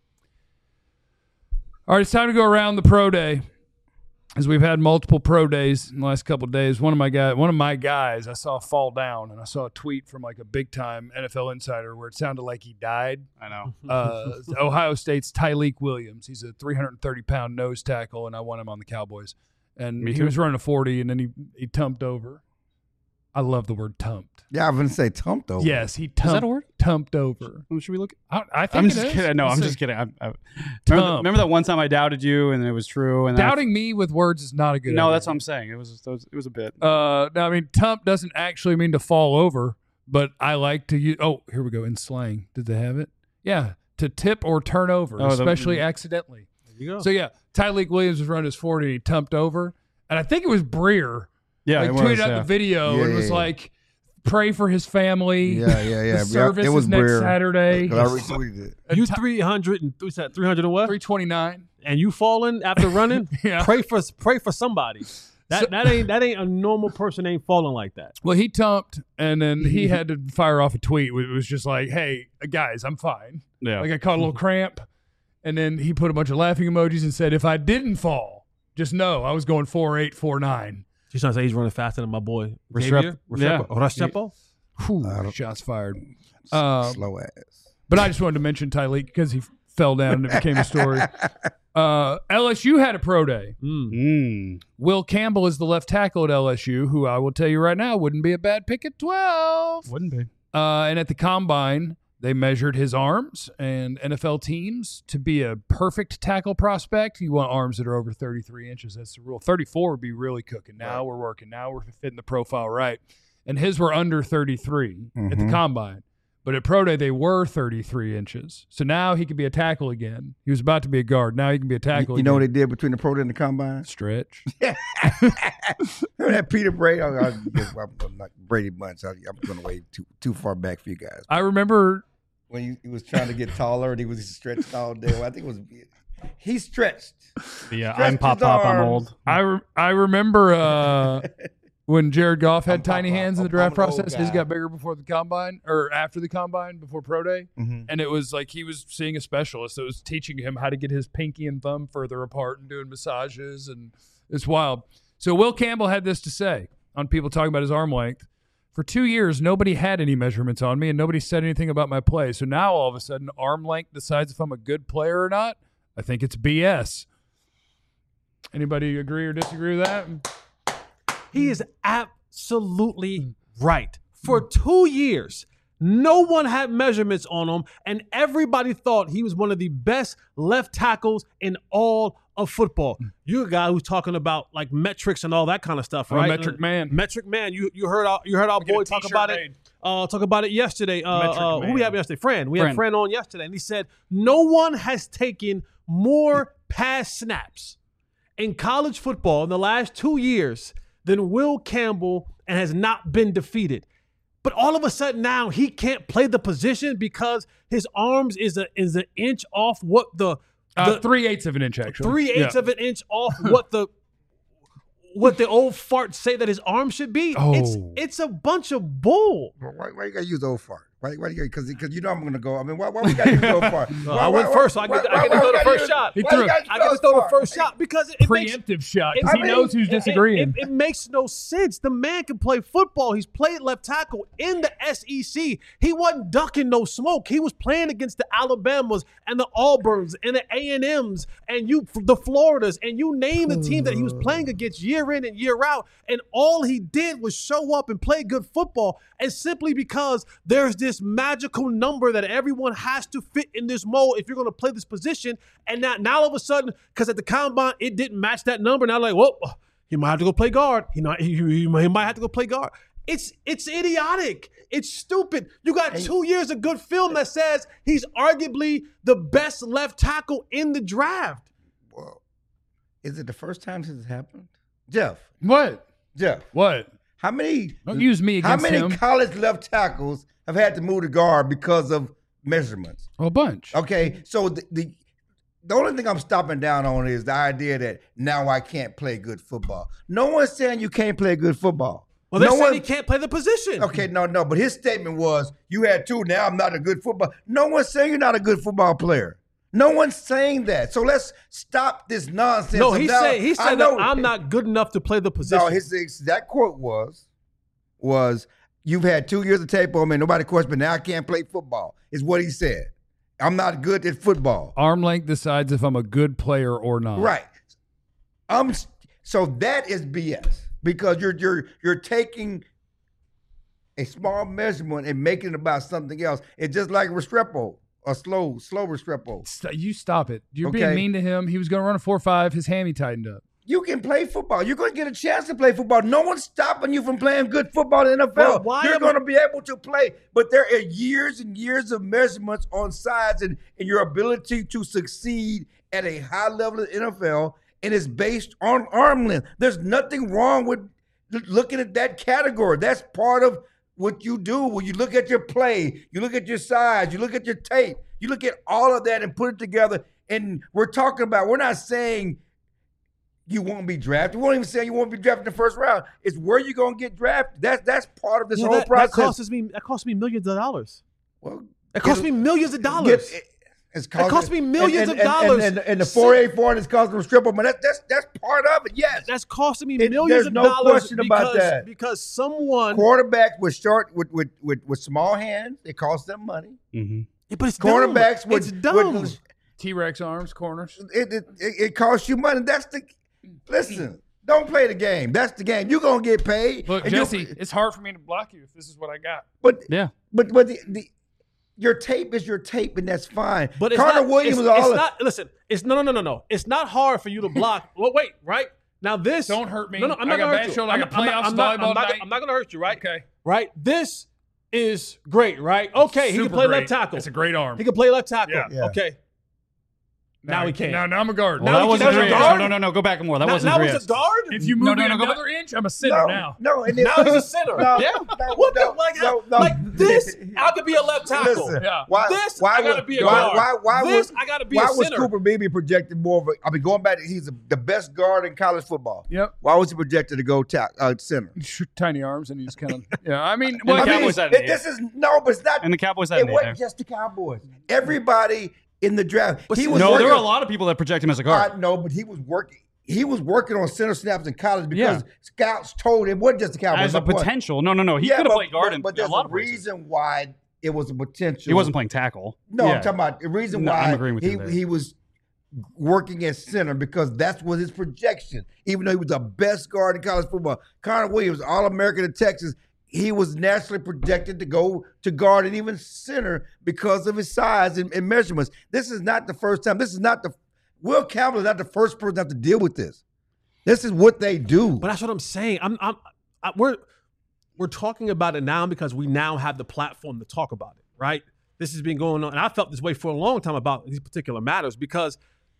Speaker 1: All right, it's time to go around the pro day. As we've had multiple pro days in the last couple of days, one of my guys, one of my guys, I saw fall down, and I saw a tweet from like a big time N F L insider where it sounded like he died.
Speaker 4: I know.
Speaker 1: Uh, Ohio State's Tyleik Williams. He's a three hundred thirty pound nose tackle, and I want him on the Cowboys. And
Speaker 4: Me
Speaker 1: he
Speaker 4: too.
Speaker 1: was running a forty, and then he he tumped over. I love the word tumped.
Speaker 2: Yeah, I was going to say tumped over.
Speaker 1: Yes, he tumped,
Speaker 4: Is that a word?
Speaker 1: tumped over.
Speaker 4: Oh, should we look?
Speaker 1: I, I think
Speaker 4: I'm
Speaker 1: it
Speaker 4: just
Speaker 1: is.
Speaker 4: kidding. No,
Speaker 1: Let's
Speaker 4: I'm
Speaker 1: see.
Speaker 4: just kidding. I, I, remember,
Speaker 1: Tump.
Speaker 4: remember that one time I doubted you and it was true. And then I-
Speaker 1: Doubting me with words is not a good
Speaker 4: no,
Speaker 1: idea.
Speaker 4: that's what I'm saying. It was it was a bit.
Speaker 1: Uh, no, I mean, tump doesn't actually mean to fall over, but I like to use. Oh, here we go. In slang, did they have it? Yeah, to tip or turn over,
Speaker 4: Oh, the-
Speaker 1: especially accidentally.
Speaker 3: There you go.
Speaker 1: So yeah, Tyleik Williams was running his forty, and he tumped over, and I think it was Breer.
Speaker 4: yeah,
Speaker 1: like
Speaker 4: it
Speaker 1: tweeted
Speaker 4: was,
Speaker 1: out
Speaker 4: yeah.
Speaker 1: the video
Speaker 2: Yeah,
Speaker 1: and
Speaker 2: yeah,
Speaker 1: was
Speaker 2: yeah.
Speaker 1: like, "Pray for his family."
Speaker 2: Yeah, yeah, yeah.
Speaker 1: The service
Speaker 2: it was
Speaker 1: is next
Speaker 2: Breer.
Speaker 1: Saturday.
Speaker 2: 'Cause I retweeted it.
Speaker 3: You three hundred and what's that? Three hundred and what?
Speaker 1: three twenty-nine.
Speaker 3: And you falling after running?
Speaker 1: Yeah.
Speaker 3: Pray for pray for somebody. That
Speaker 1: So-
Speaker 3: that ain't that ain't a normal person ain't falling like that.
Speaker 1: Well, he tumped, and then he had to fire off a tweet. It was just like, "Hey, guys, I'm fine."
Speaker 4: Yeah.
Speaker 1: Like I caught a little cramp, and then he put a bunch of laughing emojis and said, "If I didn't fall, just know I was going four eight, four nine."
Speaker 3: She's trying to say he's running faster than my boy
Speaker 4: Restrepo-
Speaker 3: Xavier.
Speaker 4: yeah.
Speaker 3: Restrepo. Restrepo?
Speaker 1: Whew,
Speaker 2: I don't-
Speaker 1: shots fired. Um,
Speaker 2: Slow ass.
Speaker 1: But I just wanted to mention Tyleik because he fell down and it became a story. Uh, L S U had a pro day.
Speaker 3: Mm.
Speaker 4: Mm.
Speaker 1: Will Campbell is the left tackle at L S U, who I will tell you right now wouldn't be a bad pick at twelve.
Speaker 4: Wouldn't be.
Speaker 1: Uh, and at the combine, they measured his arms, and N F L teams, to be a perfect tackle prospect, you want arms that are over thirty-three inches. That's the rule. thirty-four would be really cooking. Now we're working. Now we're fitting the profile right. And his were under thirty-three at the
Speaker 2: Mhm.
Speaker 1: combine. But at pro day, they were thirty-three inches. So now he could be a tackle again. He was about to be a guard. Now he can be a
Speaker 2: You,
Speaker 1: tackle
Speaker 2: you know what
Speaker 1: again.
Speaker 2: they did between the pro day and the combine?
Speaker 1: Stretch.
Speaker 2: Remember that Peter Brady? I, I, I'm not Brady Bunch. I, I'm going way too too far back for you guys.
Speaker 1: I remember
Speaker 2: When he, he was trying to get taller and he was stretched all day. Well, I think it was he stretched.
Speaker 4: Yeah,
Speaker 2: Stretch
Speaker 4: I'm pop
Speaker 2: his
Speaker 4: pop. I'm
Speaker 2: arms.
Speaker 4: old.
Speaker 1: I, re- I remember uh, when Jared Goff had
Speaker 2: I'm
Speaker 1: tiny
Speaker 2: Papa.
Speaker 1: hands in the
Speaker 2: I'm-
Speaker 1: draft
Speaker 2: I'm an old
Speaker 1: process. His
Speaker 2: guy.
Speaker 1: got bigger before the combine or after the combine, before pro day.
Speaker 2: Mm-hmm.
Speaker 1: And it was like he was seeing a specialist that was teaching him how to get his pinky and thumb further apart and doing massages. And it's wild. So Will Campbell had this to say on people talking about his arm length. For two years, nobody had any measurements on me, and nobody said anything about my play. So now all of a sudden, arm length decides if I'm a good player or not. I think it's B S. Anybody agree or disagree with that?
Speaker 3: He is absolutely right. For two years, No one had measurements on him, and everybody thought he was one of the best left tackles in all of football. You're a guy who's talking about like metrics and all that kind of stuff,
Speaker 1: I'm a
Speaker 3: right?
Speaker 1: metric
Speaker 3: Uh,
Speaker 1: man.
Speaker 3: Metric man. You you heard our you heard our
Speaker 1: Get a
Speaker 3: boy talk
Speaker 1: t-shirt
Speaker 3: about
Speaker 1: made.
Speaker 3: it. Uh, talk about it yesterday. Uh,
Speaker 1: Metric
Speaker 3: uh, who
Speaker 1: man.
Speaker 3: we had yesterday? Fran. We had
Speaker 4: Fran.
Speaker 3: Fran on yesterday, and he said no one has taken more pass snaps in college football in the last two years than Will Campbell and has not been defeated. But all of a sudden now he can't play the position because his arms is a is an inch off what the,
Speaker 1: Uh,
Speaker 3: the
Speaker 1: three eighths of an inch, actually.
Speaker 3: three eighths
Speaker 1: Yeah.
Speaker 3: of an inch off what the what the old farts say that his arm should be.
Speaker 1: Oh.
Speaker 3: It's it's a bunch of bull.
Speaker 2: Why, why you gotta use old fart? Why, why you because because you know I'm gonna go. I mean, why, why we gotta use old fart?
Speaker 3: Well, I went first, so I get- I get to throw the first shot.
Speaker 1: He threw it.
Speaker 3: I get to throw the first shot because it, it makes
Speaker 1: Preemptive shot
Speaker 3: it-
Speaker 1: because he
Speaker 3: I mean,
Speaker 1: knows who's
Speaker 3: it- it-
Speaker 1: disagreeing.
Speaker 3: It, it makes no sense. The man can play football. He's played left tackle in the S E C. He wasn't ducking no smoke. He was playing against the Alabamas and the Auburns and the A and M's and you the Floridas and you name the team that he was playing against year in and year out. And all he did was show up and play good football. And simply because there's this magical number that everyone has to fit in this mold if you're going to play this position. And now, now all of a sudden, because at the combine, it didn't match that number. Now like, well, he might have to go play guard. He, not, he, he, he might have to go play guard. It's it's idiotic. It's stupid. You got two years of good film that says he's arguably the best left tackle in the draft.
Speaker 2: Well, is it the first time this has happened? Jeff,
Speaker 1: What?
Speaker 2: Jeff,
Speaker 1: What?
Speaker 2: how many
Speaker 1: Don't use me
Speaker 2: how
Speaker 1: against
Speaker 2: many
Speaker 1: him.
Speaker 2: college left tackles have had to move to guard because of measurements?
Speaker 1: Well, a bunch.
Speaker 2: Okay, so the, the the only thing I'm stopping down on is the idea that now I can't play good football. No one's saying you can't play good football.
Speaker 3: Well, they're
Speaker 2: no
Speaker 3: saying
Speaker 2: one,
Speaker 3: he can't play the position.
Speaker 2: Okay, no, no, but his statement was, you had two, now I'm not a good football. No one's saying you're not a good football player. No one's saying that. So let's stop this nonsense.
Speaker 3: No,
Speaker 2: of
Speaker 3: he
Speaker 2: now-
Speaker 3: said he
Speaker 2: I
Speaker 3: said
Speaker 2: know-
Speaker 3: that I'm not good enough to play the position.
Speaker 2: No, his exact quote was, was you've had two years of tape on me, nobody questioned, but now I can't play football, is what he said. I'm not good at football.
Speaker 1: Arm length decides if I'm a good player or not.
Speaker 2: Right. Um. So that is B S because you're you're you're taking a small measurement and making it about something else. It's just like Restrepo, a slow slow Restrepo.
Speaker 1: St- You stop it. You're
Speaker 2: Okay.
Speaker 1: being mean to him. He was going to run a four five. His hammy tightened up.
Speaker 2: You can play football. You're going to get a chance to play football. No one's stopping you from playing good football in the N F L.
Speaker 3: Bro, why
Speaker 2: You're
Speaker 3: am-
Speaker 2: going to be able to play. But there are years and years of measurements on sides and, and your ability to succeed at a high level in the N F L, and it's based on arm length. There's nothing wrong with l- looking at that category. That's part of what you do when you look at your play, you look at your size, you look at your tape, you look at all of that and put it together. And we're talking about, we're not saying you won't be drafted. We won't even say you won't be drafted in the first round. It's where you're going to get drafted. That's that's part of this
Speaker 3: Yeah,
Speaker 2: whole
Speaker 3: that, that
Speaker 2: process.
Speaker 3: costs me that costs me millions of dollars.
Speaker 2: well,
Speaker 3: It costs me millions of dollars.
Speaker 2: Get- it's
Speaker 3: cost me millions
Speaker 2: and,
Speaker 3: of
Speaker 2: and,
Speaker 3: dollars.
Speaker 2: And, and, and the four eighty-four is costing them stripper, but that's that's that's part of it. Yes,
Speaker 3: That's costing me
Speaker 2: It-
Speaker 3: millions
Speaker 2: there's
Speaker 3: of
Speaker 2: no
Speaker 3: dollars
Speaker 2: question about
Speaker 3: because,
Speaker 2: that.
Speaker 3: because someone.
Speaker 2: quarterbacks with short with with with, with small hands, it costs them money.
Speaker 4: Mm-hmm.
Speaker 3: Yeah, but it's
Speaker 2: Cornerbacks
Speaker 3: dumb.
Speaker 2: with
Speaker 3: it's dumb.
Speaker 2: with-
Speaker 1: T-Rex arms, corners.
Speaker 2: it, it, it, it costs you money. That's the listen. Don't play the game. That's the game. You're gonna get paid.
Speaker 1: Look,
Speaker 2: and you-
Speaker 1: Jesse, it's hard for me to block you if this is what I got.
Speaker 2: But
Speaker 4: Yeah.
Speaker 2: but but the, the your tape is your tape, and that's fine.
Speaker 3: But it's
Speaker 2: Connor
Speaker 3: not,
Speaker 2: Williams
Speaker 3: it's,
Speaker 2: was all
Speaker 3: it's
Speaker 2: of-
Speaker 3: not. Listen, it's no, no, no, no, no. It's not hard for you to block. Well, wait, right now this.
Speaker 1: Don't hurt me.
Speaker 3: No, no, I'm
Speaker 1: I
Speaker 3: not
Speaker 1: got
Speaker 3: gonna
Speaker 1: bad
Speaker 3: hurt you.
Speaker 1: shoulder. I
Speaker 3: I'm
Speaker 1: got
Speaker 3: not- I'm not-
Speaker 1: playoffs
Speaker 3: I'm not-
Speaker 1: volleyball
Speaker 3: I'm not-
Speaker 1: tonight.
Speaker 3: I'm not gonna hurt you, right?
Speaker 1: Okay.
Speaker 3: Right. This is great, right? Okay, he
Speaker 1: Super
Speaker 3: can play
Speaker 1: great.
Speaker 3: left tackle.
Speaker 1: It's a great arm.
Speaker 3: He can play left tackle.
Speaker 1: Yeah.
Speaker 2: Yeah.
Speaker 3: Okay. Now he can't.
Speaker 1: Now, now I'm a guard.
Speaker 4: Well,
Speaker 3: Now
Speaker 4: that
Speaker 3: he
Speaker 4: wasn't
Speaker 3: can-
Speaker 4: three
Speaker 3: now
Speaker 4: inch.
Speaker 3: he's a
Speaker 4: No, no, no. Go back more. That
Speaker 3: now,
Speaker 4: wasn't
Speaker 3: now
Speaker 4: three
Speaker 3: he's
Speaker 4: inch.
Speaker 3: a guard.
Speaker 1: if you
Speaker 4: No,
Speaker 1: move
Speaker 4: no,
Speaker 1: me
Speaker 4: no, go
Speaker 1: another inch, I'm a center
Speaker 2: no,
Speaker 1: now.
Speaker 2: no, and then,
Speaker 3: Now he's a center.
Speaker 2: No,
Speaker 3: Yeah.
Speaker 2: no,
Speaker 3: What the
Speaker 2: no,
Speaker 3: like?
Speaker 2: no, no.
Speaker 3: Like this, I could be a left tackle.
Speaker 2: Listen,
Speaker 1: Yeah.
Speaker 2: why,
Speaker 3: This,
Speaker 2: why
Speaker 3: I gotta
Speaker 2: was-
Speaker 3: be a
Speaker 2: why,
Speaker 3: guard.
Speaker 2: Why, why,
Speaker 3: This,
Speaker 2: was,
Speaker 3: I gotta be
Speaker 2: why
Speaker 3: a
Speaker 2: was
Speaker 3: center.
Speaker 2: Cooper Beebe projected more of a, I mean, going back, to, he's a, the best guard in college football.
Speaker 1: Yep.
Speaker 2: Why was he projected to go ta- uh, center?
Speaker 1: Tiny arms, and he's kind of yeah. I mean,
Speaker 4: And
Speaker 1: well,
Speaker 4: the
Speaker 2: I mean,
Speaker 4: Cowboys had
Speaker 2: it-
Speaker 4: it,
Speaker 2: this is, no, but it's not.
Speaker 4: And the Cowboys had
Speaker 2: it
Speaker 4: an eight
Speaker 2: wasn't
Speaker 4: there.
Speaker 2: just the Cowboys. Everybody in the draft. He was
Speaker 4: No,
Speaker 2: working,
Speaker 4: there were a lot of people that project him as a guard.
Speaker 2: I know, but he was working. He was working on center snaps in college because
Speaker 4: Yeah.
Speaker 2: scouts told him it wasn't just the Cowboys.
Speaker 4: As a
Speaker 2: my point.
Speaker 4: potential. No, no, no. He
Speaker 2: Yeah,
Speaker 4: could have
Speaker 2: but-
Speaker 4: played guard
Speaker 2: but,
Speaker 4: in
Speaker 2: but
Speaker 4: a
Speaker 2: there's
Speaker 4: lot
Speaker 2: a
Speaker 4: of places.
Speaker 2: reason why it was a potential.
Speaker 4: He wasn't playing tackle.
Speaker 2: No,
Speaker 4: Yeah.
Speaker 2: I'm talking about the reason
Speaker 4: No,
Speaker 2: why
Speaker 4: I'm agreeing with
Speaker 2: he
Speaker 4: you there.
Speaker 2: he was working at center because that was his projection. Even though he was the best guard in college football, Connor Williams, All American in Texas, he was naturally projected to go to guard and even center because of his size and, and measurements. This is not the first time. This is not the Will Campbell is not the first person to have to deal with this. This is what they do.
Speaker 3: But that's what I'm saying. I'm, I'm, I, we're, we're talking about it now because we now have the platform to talk about it, right? This has been going on, and I felt this way for a long time about these particular matters because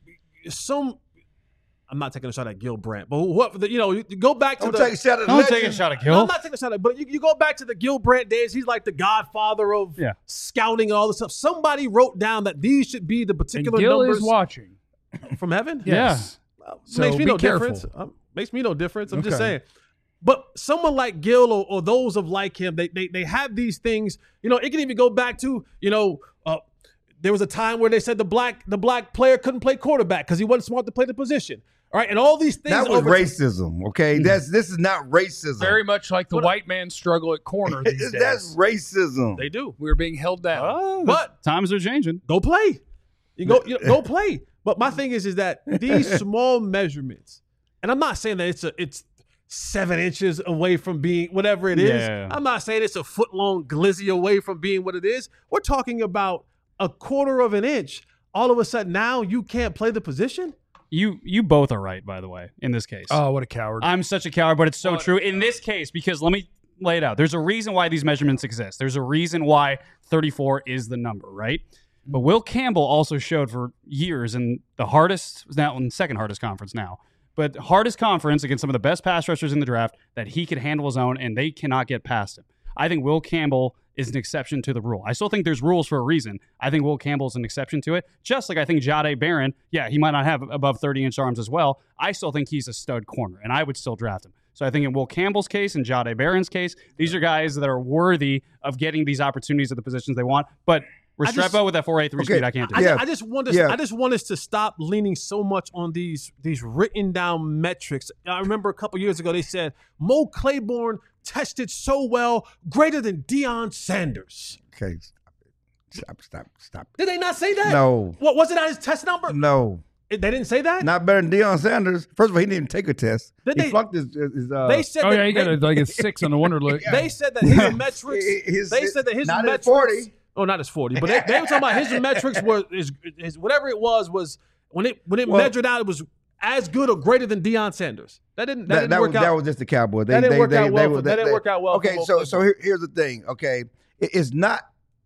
Speaker 3: some. I'm not taking a shot at Gil Brandt, but what you know, you go back to
Speaker 2: Don't
Speaker 3: the.
Speaker 2: take a shot at
Speaker 4: Don't
Speaker 2: legend.
Speaker 4: take a shot at
Speaker 3: No,
Speaker 4: Gil.
Speaker 3: I'm not taking a shot at, but you, you go back to the Gil Brandt days. He's like the godfather of
Speaker 4: Yeah.
Speaker 3: scouting and all this stuff. Somebody wrote down that these should be the
Speaker 1: And
Speaker 3: particular
Speaker 1: Gil
Speaker 3: numbers
Speaker 1: is watching.
Speaker 3: from heaven.
Speaker 1: Yes.
Speaker 3: Well,
Speaker 1: So
Speaker 3: makes me
Speaker 1: be
Speaker 3: no
Speaker 1: careful.
Speaker 3: difference. Um, makes me no difference. I'm just
Speaker 1: Okay.
Speaker 3: saying. But someone like Gil or, or those of like him, they, they they have these things. You know, it can even go back to you know. Uh, there was a time where they said the black the black player couldn't play quarterback because he wasn't smart to play the position. All right, and all these things.
Speaker 2: That was
Speaker 3: over-
Speaker 2: racism, okay? That's this is not racism.
Speaker 1: Very much like the
Speaker 3: What-
Speaker 1: white man struggle at corner these days.
Speaker 2: That's racism.
Speaker 3: They do.
Speaker 1: We were being held down.
Speaker 4: Oh,
Speaker 3: But-
Speaker 4: times are changing.
Speaker 3: Go play. You go you know, go play. But my thing is, is that these small measurements, and I'm not saying that it's a it's seven inches away from being whatever it is.
Speaker 4: Yeah.
Speaker 3: I'm not saying it's a foot long glizzy away from being what it is. We're talking about a quarter of an inch. All of a sudden now you can't play the position.
Speaker 4: You you both are right, by the way, in this case.
Speaker 1: Oh, what a coward.
Speaker 4: I'm such a coward, but it's so
Speaker 1: Well,
Speaker 4: true in this case because let me lay it out. There's a reason why these measurements exist. There's a reason why thirty-four is the number, right? But Will Campbell also showed for years in the hardest, now in the second hardest conference now, but hardest conference against some of the best pass rushers in the draft that he could handle his own and they cannot get past him. I think Will Campbell is an exception to the rule. I still think there's rules for a reason. I think Will Campbell is an exception to it. Just like I think Jahdae Barron, yeah, he might not have above thirty-inch arms as well. I still think he's a stud corner, and I would still draft him. So I think in Will Campbell's case and Jahdae Barron's case, these are guys that are worthy of getting these opportunities at the positions they want. But
Speaker 3: I just-
Speaker 4: Restrepo with that four eight three
Speaker 2: Okay,
Speaker 4: speed, I can't do.
Speaker 3: I,
Speaker 4: it.
Speaker 2: Yeah.
Speaker 3: I just want us.
Speaker 2: Yeah.
Speaker 3: I just want us to stop leaning so much on these these written down metrics. I remember a couple years ago they said Mo Claiborne tested so well, greater than Deion Sanders.
Speaker 2: Okay, stop it. Stop, stop, stop.
Speaker 3: Did they not say that?
Speaker 2: No.
Speaker 3: What was it on his test number?
Speaker 2: No.
Speaker 3: It- They didn't say that.
Speaker 2: Not better than Deion Sanders. First of all, he didn't even take a test.
Speaker 3: Did
Speaker 2: he
Speaker 3: they-
Speaker 2: flunked his, his uh,
Speaker 3: they said
Speaker 1: oh,
Speaker 3: that
Speaker 1: yeah, he got
Speaker 3: they,
Speaker 1: a, like a six on the Wonderlic.
Speaker 3: they said that his metrics.
Speaker 2: his-
Speaker 3: they said that his
Speaker 2: not at
Speaker 3: metrics.
Speaker 2: forty.
Speaker 3: Oh, not his forty, but they, they were talking about his metrics were his, his whatever it was was when it when it
Speaker 2: Well-
Speaker 3: measured out it was as good or greater than Deion Sanders. That didn't that,
Speaker 2: That,
Speaker 3: didn't
Speaker 2: that
Speaker 3: work
Speaker 2: was
Speaker 3: out.
Speaker 2: that was just the Cowboys. They,
Speaker 3: That didn't
Speaker 2: they,
Speaker 3: work
Speaker 2: they,
Speaker 3: out
Speaker 2: they,
Speaker 3: well
Speaker 2: were-
Speaker 3: for-
Speaker 2: they-
Speaker 3: that didn't
Speaker 2: they-
Speaker 3: work out well for
Speaker 2: Okay,
Speaker 3: Mo
Speaker 2: so so
Speaker 3: Claiborne.
Speaker 2: here, here's the thing. Okay, It- it's not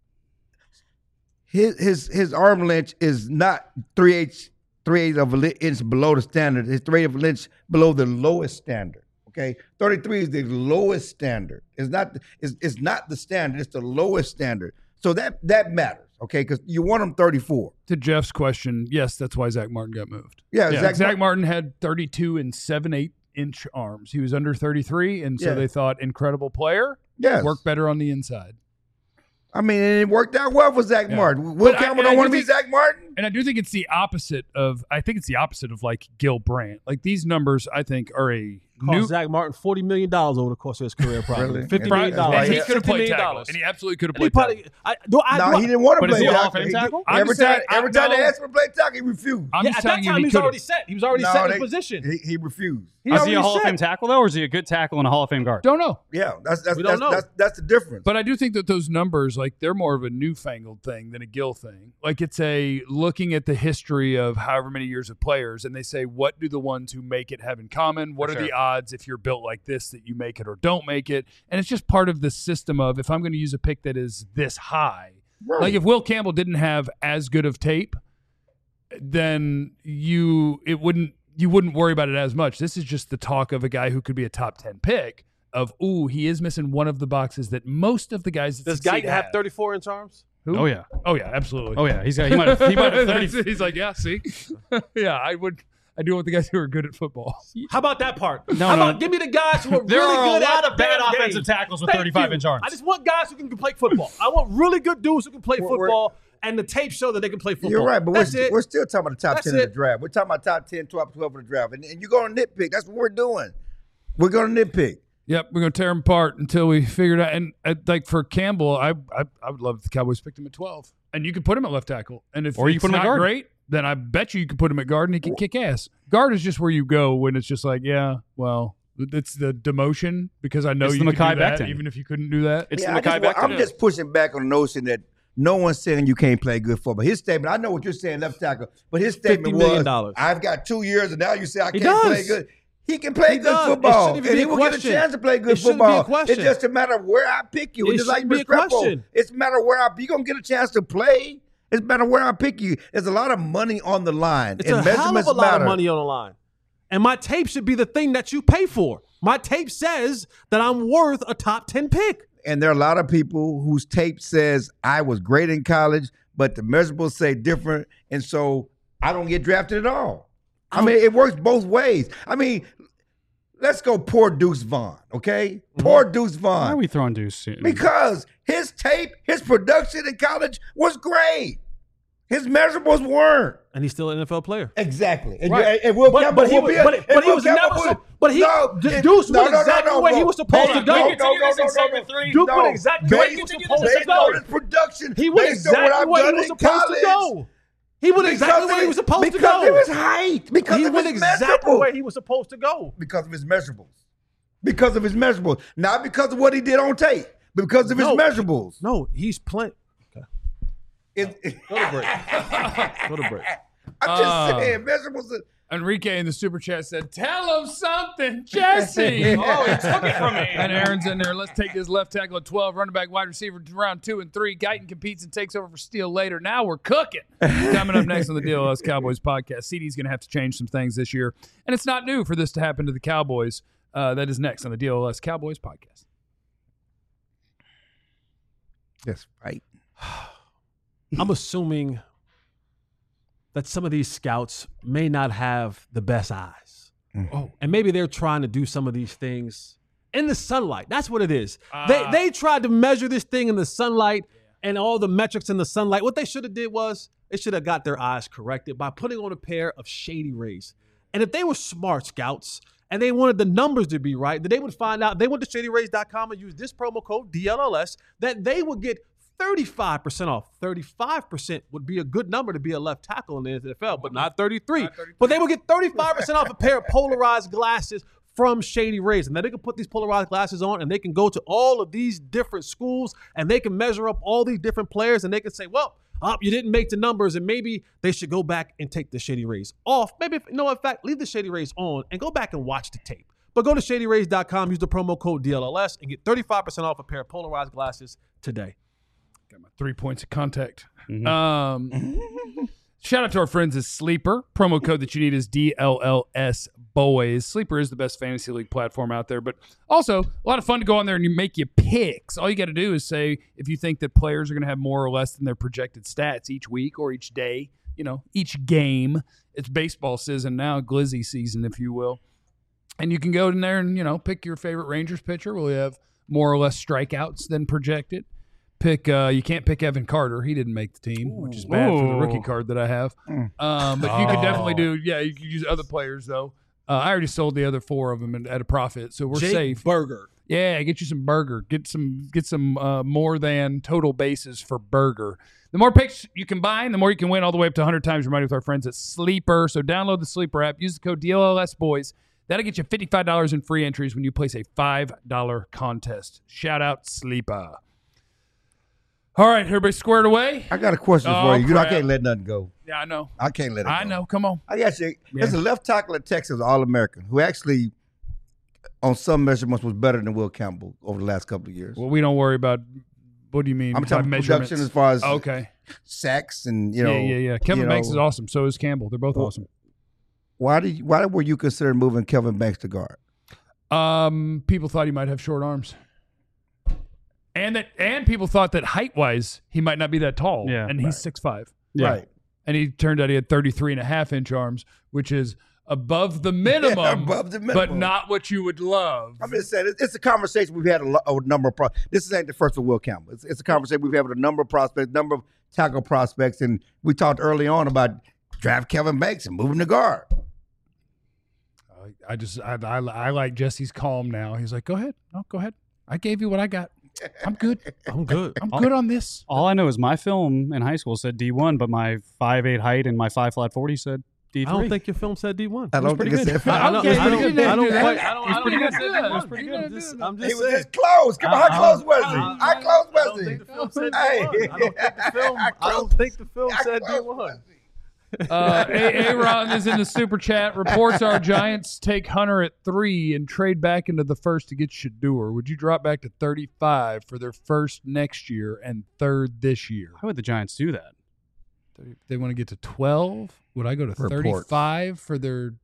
Speaker 2: his his his arm length is not three eighths three eighths of an inch below the standard. It's three eighths of an inch below the lowest standard. Okay, thirty-three is the lowest standard. It's not it's, it's not the standard. It's the lowest standard. So that that matters. Okay, because you want them thirty-four.
Speaker 1: To Jeff's question, yes, that's why Zach Martin got moved.
Speaker 2: Yeah,
Speaker 1: Yeah,
Speaker 2: Zach,
Speaker 1: Zach, Martin had thirty-two and seven eight inch arms. He was under thirty-three, and so
Speaker 2: Yeah.
Speaker 1: they thought incredible player,
Speaker 2: Yes.
Speaker 1: worked better on the inside.
Speaker 2: I mean, and it worked out well for Zach
Speaker 1: Yeah.
Speaker 2: Martin. Will
Speaker 1: But I-
Speaker 2: Campbell
Speaker 1: and I
Speaker 2: don't want to
Speaker 1: do
Speaker 2: be
Speaker 1: think-
Speaker 2: Zach Martin.
Speaker 1: And I do think it's the opposite of. I think it's the opposite of like Gil Brandt. Like these numbers, I think are a
Speaker 3: Cost
Speaker 1: new.
Speaker 3: Zach Martin forty million dollars over the course of his career, probably
Speaker 2: Really?
Speaker 3: fifty
Speaker 2: Right.
Speaker 3: million
Speaker 2: That's why
Speaker 3: dollars.
Speaker 1: And he
Speaker 2: Yeah.
Speaker 1: could have
Speaker 3: fifty
Speaker 1: played
Speaker 3: million
Speaker 1: tackle,
Speaker 3: dollars.
Speaker 1: and he absolutely could have
Speaker 3: And he
Speaker 1: played tackle.
Speaker 3: probably, I, do I,
Speaker 2: No,
Speaker 3: do I-
Speaker 2: he didn't want to
Speaker 4: But
Speaker 2: play
Speaker 4: is he a Hall of
Speaker 2: tackle.
Speaker 4: Fame
Speaker 2: He-
Speaker 4: tackle?
Speaker 1: I'm
Speaker 2: Every
Speaker 1: just
Speaker 2: time,
Speaker 1: saying-
Speaker 2: every
Speaker 1: I-
Speaker 2: time they
Speaker 1: no.
Speaker 2: asked him to play tackle, he refused.
Speaker 1: I'm
Speaker 3: yeah,
Speaker 1: just
Speaker 3: at that
Speaker 1: telling you,
Speaker 3: time
Speaker 1: he
Speaker 3: he was
Speaker 1: could
Speaker 3: already
Speaker 1: have.
Speaker 3: set. He was already
Speaker 2: No,
Speaker 3: set in
Speaker 2: they-
Speaker 3: his position.
Speaker 2: He, he refused.
Speaker 3: He
Speaker 4: Is
Speaker 3: already
Speaker 4: he a Hall of
Speaker 3: set.
Speaker 4: Fame tackle though, or is he a good tackle and a Hall of Fame guard?
Speaker 1: Don't know.
Speaker 2: Yeah, that's that's
Speaker 3: We
Speaker 2: that's,
Speaker 3: don't know.
Speaker 2: that's that's the difference.
Speaker 1: But I do think that those numbers, like, they're more of a newfangled thing than a Gil thing. Like, it's a looking at the history of however many years of players, and they say, what do the ones who make it have in common? What
Speaker 4: For
Speaker 1: are the
Speaker 4: sure.
Speaker 1: odds if you're built like this that you make it or don't make it? And it's just part of the system of if I'm going to use a pick that is this high.
Speaker 2: Right.
Speaker 1: Like, if Will Campbell didn't have as good of tape, then you it wouldn't you wouldn't worry about it as much. This is just the talk of a guy who could be a top ten pick. Of ooh, he is missing one of the boxes that most of the guys that
Speaker 3: Does
Speaker 1: succeed
Speaker 3: Guyton have thirty-four inch arms?
Speaker 1: Who?
Speaker 4: Oh yeah,
Speaker 1: Oh yeah, absolutely.
Speaker 4: oh yeah. He's got. He might have. He might have thirty.
Speaker 1: He's like, yeah, see, yeah, I would. I do want the guys who are good at football.
Speaker 3: How about that part?
Speaker 4: No,
Speaker 3: How
Speaker 4: no.
Speaker 3: about give me the guys who are
Speaker 4: There
Speaker 3: really
Speaker 4: are a
Speaker 3: good
Speaker 4: lot
Speaker 3: at
Speaker 4: of bad
Speaker 3: the damn
Speaker 4: offensive
Speaker 3: game.
Speaker 4: tackles with
Speaker 3: Thank
Speaker 4: thirty-five
Speaker 3: you.
Speaker 4: inch arms.
Speaker 3: I just want guys who can play football. I want really good dudes who can play
Speaker 2: We're-
Speaker 3: football, and the tape show that they can play football.
Speaker 2: You're right, but we're,
Speaker 3: That's
Speaker 2: st-
Speaker 3: it.
Speaker 2: we're still talking about the top
Speaker 3: That's
Speaker 2: ten of the
Speaker 3: it.
Speaker 2: draft. We're talking about top ten, twelve, twelve of the draft. And, and you're going to nitpick. That's what we're doing. We're going to nitpick.
Speaker 1: Yep, we're gonna tear him apart until we figure it out. And uh, like for Campbell, I, I I would love if the Cowboys picked him at twelve, and you could put him at left tackle. And if
Speaker 4: Or you
Speaker 1: it's
Speaker 4: put him at
Speaker 1: not
Speaker 4: guard.
Speaker 1: great, then I bet you you could put him at guard and he could kick ass. Guard is just where you go when it's just like, yeah, well, It's the demotion because I know
Speaker 4: It's
Speaker 1: you
Speaker 4: the
Speaker 1: could do
Speaker 4: Mekhi
Speaker 1: that,
Speaker 4: Becton.
Speaker 1: even if you couldn't do that.
Speaker 4: It's
Speaker 2: Yeah,
Speaker 4: the
Speaker 2: I just,
Speaker 4: Mekhi
Speaker 2: wa-
Speaker 4: Becton.
Speaker 2: I'm just pushing back on the notion that no one's saying you can't play good football. His statement, I know what you're saying, left tackle, but his statement
Speaker 3: fifty million
Speaker 2: was,
Speaker 3: dollars.
Speaker 2: I've got two years and now you say I
Speaker 3: He
Speaker 2: can't play
Speaker 3: does.
Speaker 2: good. He can play
Speaker 3: He
Speaker 2: good
Speaker 3: does. It
Speaker 2: football,
Speaker 3: shouldn't even
Speaker 2: and
Speaker 3: be
Speaker 2: he
Speaker 3: a
Speaker 2: will get a
Speaker 3: question.
Speaker 2: chance to play
Speaker 3: It
Speaker 2: good
Speaker 3: shouldn't be a
Speaker 2: football.
Speaker 3: question.
Speaker 2: It's just a matter of where I pick you.
Speaker 3: It
Speaker 2: It's just like
Speaker 3: shouldn't be a
Speaker 2: Restrepo.
Speaker 3: question.
Speaker 2: It's a matter of where I you're gonna get a chance to play. It's a matter of where I pick you. There's a lot of money on the line.
Speaker 3: It's
Speaker 2: and
Speaker 3: a hell of
Speaker 2: measurements
Speaker 3: a lot
Speaker 2: matter.
Speaker 3: of money on the line. And my tape should be the thing that you pay for. My tape says that I'm worth a top ten pick.
Speaker 2: And there are a lot of people whose tape says I was great in college, but the measurables say different, and so I don't get drafted at all. I mean, it works both ways. I mean, let's go poor Deuce Vaughn, okay? Poor Deuce
Speaker 4: Why are
Speaker 2: Vaughn.
Speaker 4: we throwing Deuce? in?
Speaker 2: Because his tape, his production in college was great. His measurables weren't.
Speaker 3: And he's still an N F L player.
Speaker 2: Exactly. And,
Speaker 3: Right.
Speaker 2: and Will
Speaker 3: But-
Speaker 2: Campbell
Speaker 3: but he
Speaker 2: will
Speaker 3: was-
Speaker 2: be a-
Speaker 3: but-
Speaker 2: and
Speaker 3: but he
Speaker 2: Will
Speaker 3: was
Speaker 2: Campbell
Speaker 3: never
Speaker 2: will-
Speaker 3: so- but he-
Speaker 2: no,
Speaker 3: D-
Speaker 2: it-
Speaker 3: Deuce
Speaker 2: no,
Speaker 3: went
Speaker 2: no, no,
Speaker 3: exactly
Speaker 2: no,
Speaker 3: where he
Speaker 2: Will.
Speaker 3: was supposed
Speaker 2: Hold
Speaker 3: to
Speaker 2: on,
Speaker 3: go.
Speaker 2: no,
Speaker 3: He
Speaker 2: no, no, no, no, no.
Speaker 3: Duke
Speaker 2: No,
Speaker 3: went exactly where he was
Speaker 2: based-
Speaker 3: supposed to
Speaker 2: based
Speaker 3: go.
Speaker 2: on his production,
Speaker 3: He went
Speaker 2: based on what
Speaker 3: exactly
Speaker 2: I've
Speaker 3: where he
Speaker 2: done
Speaker 3: was
Speaker 2: in
Speaker 3: supposed to
Speaker 2: college.
Speaker 3: go. He went exactly
Speaker 2: Because
Speaker 3: where
Speaker 2: of
Speaker 3: he was
Speaker 2: his-
Speaker 3: supposed to
Speaker 2: because
Speaker 3: go.
Speaker 2: of his height. Because
Speaker 3: He
Speaker 2: of
Speaker 3: went
Speaker 2: his
Speaker 3: exactly
Speaker 2: measurables.
Speaker 3: where he was supposed to go.
Speaker 2: Because of his measurables. Because of his measurables. Not because of what he did on tape, but because of his
Speaker 3: No.
Speaker 2: measurables.
Speaker 3: No, he's playing.
Speaker 2: It- it-
Speaker 3: Go to break. Go to break.
Speaker 2: I'm just
Speaker 1: Uh,
Speaker 2: saying, measurables. Are,
Speaker 1: Enrique in the super chat said, "Tell him something, Jesse."
Speaker 4: Oh, he took it from me.
Speaker 1: And Aaron's in there. Let's take this left tackle at twelve, running back, wide receiver, round two and three. Guyton competes and takes over for Steele later. Now we're cooking. Coming up next on the D L S Cowboys podcast, C D's going to have to change some things this year, and it's not new for this to happen to the Cowboys. Uh, that is next on the D L S Cowboys podcast.
Speaker 2: Yes, right.
Speaker 3: I'm assuming that some of these scouts may not have the best eyes.
Speaker 1: Oh.
Speaker 3: And maybe they're trying to do some of these things in the sunlight. That's what it is. they
Speaker 1: Ah.
Speaker 3: they tried to measure this thing in the sunlight and all the metrics in the sunlight. What they should have did was they should have got their eyes corrected by putting on a pair of Shady Rays. And if they were smart scouts and they wanted the numbers to be right, then they would find out, they went to shady rays dot com and use this promo code D L L S, that they would get thirty-five percent off. thirty-five percent would be a good number to be a left tackle in the N F L, but not thirty-three. But they would get thirty-five percent off a pair of polarized glasses from Shady Rays. And then they can put these polarized glasses on and they can go to all of these different schools and they can measure up all these different players and they can say, well, oh, you didn't make the numbers and maybe they should go back and take the Shady Rays off. Maybe, if, no, in fact, leave the Shady Rays on and go back and watch the tape. But go to shady rays dot com, use the promo code D L L S and get thirty-five percent off a pair of polarized glasses today.
Speaker 1: Got my three points of contact. Um, shout out to our friends at Sleeper. Promo code that you need is D L L S Boys. Sleeper is the best fantasy league platform out there, but also a lot of fun to go on there and you make your picks. All you got to do is say if you think that players are going to have more or less than their projected stats each week or each day, you know, each game. It's baseball season now, glizzy season, if you will. And you can go in there and, you know, pick your favorite Rangers pitcher. Will you have more or less strikeouts than projected? Pick. Uh, you can't pick Evan Carter. He didn't make the team, which is bad for the rookie
Speaker 4: Ooh.
Speaker 1: card that I have. Um, but you could definitely do. Yeah, you could use other players though. Uh, I already sold the other four of them at a profit, so we're
Speaker 3: Jake
Speaker 1: safe.
Speaker 3: Burger.
Speaker 1: Yeah, get you some burger. Get some. Get some uh, more than total bases for burger. The more picks you combine, the more you can win, all the way up to one hundred times your money with our friends at Sleeper. So download the Sleeper app. Use the code D L L S Boys. That'll get you fifty-five dollars in free entries when you place a five dollar contest. Shout out Sleeper. All right, everybody squared away?
Speaker 2: I got a question
Speaker 1: Oh,
Speaker 2: for you. You know, I
Speaker 1: crap.
Speaker 2: can't let nothing go.
Speaker 1: Yeah, I know.
Speaker 2: I can't let it go.
Speaker 1: I know. Come on.
Speaker 2: I got you. There's a left tackle at Texas, All-American, who actually, on some measurements, was better than Will Campbell over the last couple of years.
Speaker 1: Well, we don't worry about, what do you mean?
Speaker 2: I'm
Speaker 1: by
Speaker 2: talking
Speaker 1: measurements?
Speaker 2: production as far as
Speaker 1: Okay.
Speaker 2: sacks and, you know.
Speaker 1: yeah, yeah, yeah. Kevin
Speaker 2: you
Speaker 1: Banks
Speaker 2: know,
Speaker 1: is awesome. So is Campbell. They're both
Speaker 2: Well,
Speaker 1: awesome.
Speaker 2: Why did you, why were you considering moving Kevin Banks to guard?
Speaker 1: Um, people thought he might have short arms. And that, and people thought that height-wise, he might not be that tall.
Speaker 4: Yeah.
Speaker 1: And he's
Speaker 2: Right.
Speaker 1: six five.
Speaker 4: Yeah.
Speaker 2: Right.
Speaker 1: And he turned out he had thirty-three and a half inch arms, which is above the minimum,
Speaker 2: Yeah, above the minimum.
Speaker 1: but not what you would love.
Speaker 2: I'm just saying, it's, it's a conversation we've had a, lo- a number of. Pro- this ain't the first with Will Campbell. It's, it's a conversation we've had with a number of prospects, number of tackle prospects, and we talked early on about draft Kevin Banks and moving to guard.
Speaker 1: I- I just, I, I, I like Jesse's calm now. He's like, go ahead. No, go ahead. I gave you what I got. I'm good.
Speaker 3: I'm good.
Speaker 1: I'm good on this.
Speaker 4: All I know is my film in high school said D one, but my five eight height and my five flat forty said D
Speaker 3: I
Speaker 4: three.
Speaker 3: don't think your film said D one.
Speaker 2: I don't think it said
Speaker 3: I don't,
Speaker 1: Okay,
Speaker 3: I
Speaker 1: you
Speaker 3: don't,
Speaker 1: didn't
Speaker 3: I don't
Speaker 1: do that.
Speaker 3: quite, I don't, I don't
Speaker 1: pretty
Speaker 3: think
Speaker 1: good.
Speaker 3: it said D one.
Speaker 1: It's pretty good.
Speaker 3: I'm just, I'm
Speaker 2: He
Speaker 3: just
Speaker 2: was
Speaker 3: saying.
Speaker 2: this close. Come on, how
Speaker 3: I-
Speaker 2: close was
Speaker 3: I-
Speaker 2: he?
Speaker 3: I-
Speaker 2: How close
Speaker 3: I
Speaker 2: was
Speaker 3: don't
Speaker 2: he?
Speaker 3: think the film said
Speaker 2: Hey.
Speaker 3: D one. I don't think the film.
Speaker 2: How
Speaker 3: I don't
Speaker 2: close-
Speaker 3: think the film
Speaker 2: how
Speaker 3: said D
Speaker 2: close
Speaker 3: one.
Speaker 2: was he?
Speaker 1: Uh, Aaron is in the super chat. Reports our Giants take Hunter at three and trade back into the first to get Shador. Would you drop back to thirty-five for their first next year and third this year?
Speaker 4: Why would the Giants do that?
Speaker 1: They want to get to twelve. Would I go to
Speaker 2: Reports.
Speaker 1: thirty-five for their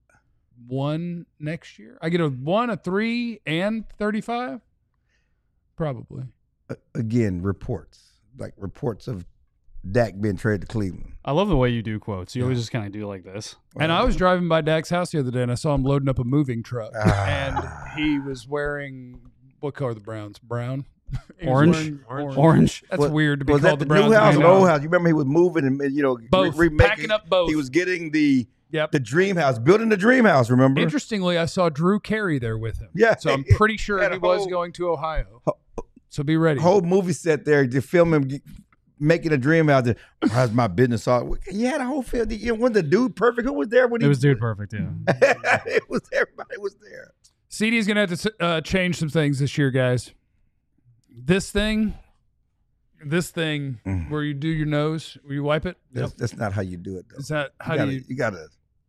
Speaker 1: one next year? I get a one, a three, and thirty-five? Probably.
Speaker 2: Uh, Again, reports. Like reports of Dak being traded to Cleveland.
Speaker 4: I love the way you do quotes. You always just kind of do like this.
Speaker 1: And I was driving by Dak's house the other day, and I saw him loading up a moving truck.
Speaker 2: Ah.
Speaker 1: And he was wearing, what color are the Browns? Brown? He was
Speaker 4: Orange?
Speaker 1: wearing
Speaker 3: Orange.
Speaker 4: Orange.
Speaker 1: That's
Speaker 2: Was-
Speaker 1: weird to be
Speaker 2: was
Speaker 1: called
Speaker 2: that
Speaker 1: the
Speaker 2: the
Speaker 1: Browns.
Speaker 2: new house
Speaker 1: I
Speaker 2: or
Speaker 1: know.
Speaker 2: old house? You remember he was moving and you know
Speaker 1: Both.
Speaker 2: re- remaking-
Speaker 1: Packing up both.
Speaker 2: He was getting the
Speaker 1: Yep.
Speaker 2: the dream house, building the dream house. Remember?
Speaker 1: Interestingly, I saw Drew Carey there with him.
Speaker 2: Yeah.
Speaker 1: So I'm pretty sure
Speaker 2: Had
Speaker 1: he
Speaker 2: a
Speaker 1: was
Speaker 2: whole-
Speaker 1: going to Ohio. So be ready.
Speaker 2: Whole movie set there to film him ge- making a dream house. How's my business? All he had a whole film. You know, was the dude perfect? Who was there when he
Speaker 4: It was dude perfect, yeah.
Speaker 2: it was everybody was there.
Speaker 1: C D's going to have to uh, change some things this year, guys. This thing, this thing
Speaker 2: Mm.
Speaker 1: where you do your nose, where you wipe it,
Speaker 2: That's, that's not how you do it. Though.
Speaker 1: is that how
Speaker 2: you
Speaker 1: do
Speaker 2: gotta,
Speaker 1: you?
Speaker 2: you gotta.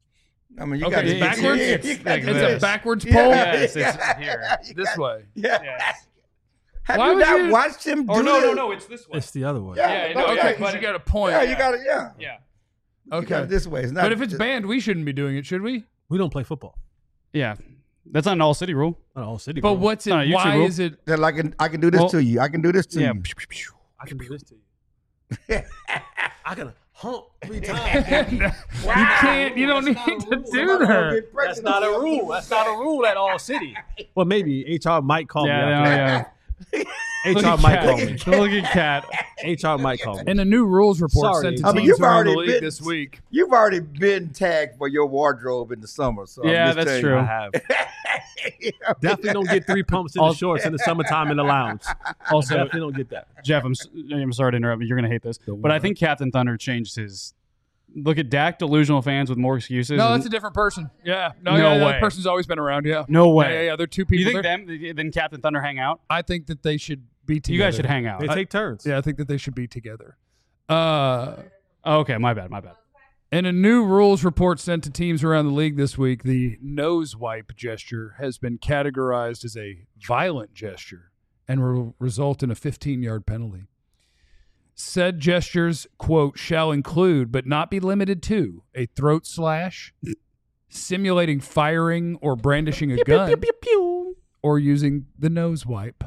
Speaker 2: I mean, you
Speaker 1: Okay,
Speaker 2: gotta.
Speaker 1: it's backwards?
Speaker 2: Yeah,
Speaker 1: It's
Speaker 2: you
Speaker 4: like
Speaker 2: gotta do
Speaker 1: It's
Speaker 4: this.
Speaker 1: a
Speaker 2: that.
Speaker 1: backwards
Speaker 2: Yeah.
Speaker 1: pole?
Speaker 4: Yes, it's here.
Speaker 2: You
Speaker 1: This
Speaker 2: gotta-
Speaker 1: way.
Speaker 2: Yeah.
Speaker 4: Yes.
Speaker 2: Have
Speaker 1: Why
Speaker 2: you
Speaker 1: would
Speaker 2: not
Speaker 1: you-
Speaker 2: watched him do
Speaker 4: Oh, no, no,
Speaker 2: this?
Speaker 4: no, it's this way.
Speaker 3: It's the other way.
Speaker 2: Yeah,
Speaker 4: Yeah,
Speaker 2: no,
Speaker 4: no,
Speaker 2: yeah,
Speaker 1: Okay, because you got a point.
Speaker 2: yeah, you got it. Yeah.
Speaker 4: Yeah.
Speaker 2: You got
Speaker 1: Okay.
Speaker 2: it this way. It's not.
Speaker 1: But if it's
Speaker 2: just-
Speaker 1: banned, we shouldn't be doing it, should we?
Speaker 3: We don't play football.
Speaker 4: Yeah. That's not an all city rule.
Speaker 3: Not all city.
Speaker 1: But
Speaker 3: bro.
Speaker 1: what's it?
Speaker 4: Not a YouTube
Speaker 1: Why
Speaker 4: rule.
Speaker 1: is it?
Speaker 2: then I can I can do this
Speaker 4: Well,
Speaker 2: to you. I can do this to
Speaker 4: Yeah.
Speaker 2: you.
Speaker 3: I can do this to you. I can hump three times.
Speaker 1: You can't. You don't need to do that.
Speaker 3: That's not a rule. That's not a rule at all city. Well, maybe H R might call
Speaker 4: Yeah,
Speaker 3: me.
Speaker 4: no,
Speaker 3: after
Speaker 4: yeah.
Speaker 3: that. H R might call me.
Speaker 4: Look at Cat.
Speaker 3: H R might call me.
Speaker 1: And a new rules report
Speaker 3: Sorry.
Speaker 1: sent to
Speaker 2: I mean,
Speaker 1: teams
Speaker 2: you've
Speaker 1: around the
Speaker 2: already
Speaker 1: league
Speaker 2: been-
Speaker 1: this week.
Speaker 2: You've already been tagged for your wardrobe in the summer. So I'm
Speaker 4: Yeah,
Speaker 2: just
Speaker 4: that's
Speaker 2: telling
Speaker 4: true.
Speaker 3: I have.
Speaker 2: you.
Speaker 3: Definitely don't get three pumps in the shorts in the summertime in the lounge.
Speaker 4: Also,
Speaker 3: Definitely don't get that.
Speaker 4: Jeff, I'm, s- I'm sorry to interrupt you. You're going to hate this. But I think Captain Thunder changed his. Look at Dak, delusional fans with more excuses.
Speaker 1: No,
Speaker 4: and-
Speaker 1: that's a different person. Yeah. No,
Speaker 4: No
Speaker 1: yeah, that
Speaker 4: way.
Speaker 1: person's always been around. Yeah.
Speaker 4: No
Speaker 1: Yeah,
Speaker 4: way.
Speaker 1: yeah, yeah. They're two
Speaker 4: Do you
Speaker 1: people.
Speaker 4: think
Speaker 1: there.
Speaker 4: them, then Captain Thunder hang out?
Speaker 1: I think that they should be together.
Speaker 4: You guys should hang out.
Speaker 3: They take turns.
Speaker 1: Yeah, I think that they should be together. Uh,
Speaker 4: Oh, okay, my bad, my bad.
Speaker 1: in a new rules report sent to teams around the league this week, the nose wipe gesture has been categorized as a violent gesture and will result in a fifteen-yard penalty. Said gestures, quote, shall include, but not be limited to, a throat slash, simulating firing or brandishing a gun, or using the nose wipe.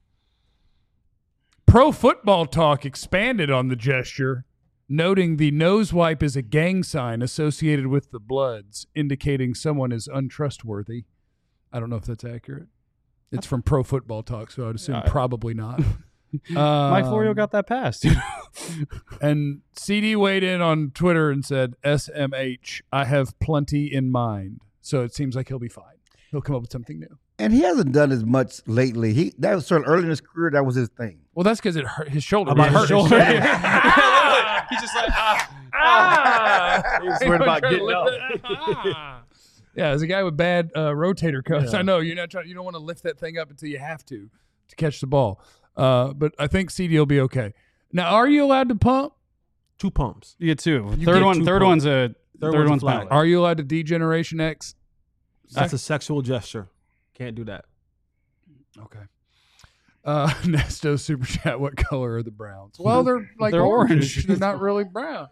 Speaker 1: Pro Football Talk expanded on the gesture, noting the nose wipe is a gang sign associated with the Bloods, indicating someone is untrustworthy. I don't know if that's accurate. It's from Pro Football Talk, so I'd assume
Speaker 4: Yeah.
Speaker 1: probably not.
Speaker 4: Mike
Speaker 1: Um,
Speaker 4: Florio got that passed.
Speaker 1: And C D weighed in on Twitter and said, S M H, I have plenty in mind. So it seems like he'll be fine. He'll come up with something new.
Speaker 2: And he hasn't done as much lately. He that was sort of early in his career. That was his thing.
Speaker 1: Well, that's because it hurt his shoulder.
Speaker 3: About
Speaker 1: It
Speaker 3: his
Speaker 1: hurt
Speaker 3: shoulder?
Speaker 1: He's just like, ah, ah.
Speaker 3: He's worried about getting up.
Speaker 1: Ah. Yeah, as a guy with bad uh, rotator cuffs,
Speaker 3: Yeah.
Speaker 1: I know you're not trying. You don't want to lift that thing up until you have to to catch the ball. Uh, but I think C D will be okay. Now, are you allowed to pump?
Speaker 3: Two pumps.
Speaker 4: You get two.
Speaker 3: You
Speaker 4: third
Speaker 3: get
Speaker 4: one.
Speaker 3: two
Speaker 4: Third
Speaker 3: points.
Speaker 4: one's a.
Speaker 3: Third
Speaker 4: Third,
Speaker 3: one's a
Speaker 4: one's
Speaker 3: flag.
Speaker 4: penalty.
Speaker 1: Are you allowed to D-Generation X?
Speaker 3: That's a sexual gesture. Can't do that.
Speaker 1: Okay. Uh, Nesto Super Chat, what color are the Browns? Well, they're like
Speaker 4: They're
Speaker 1: orange.
Speaker 4: orange.
Speaker 1: They're not really brown.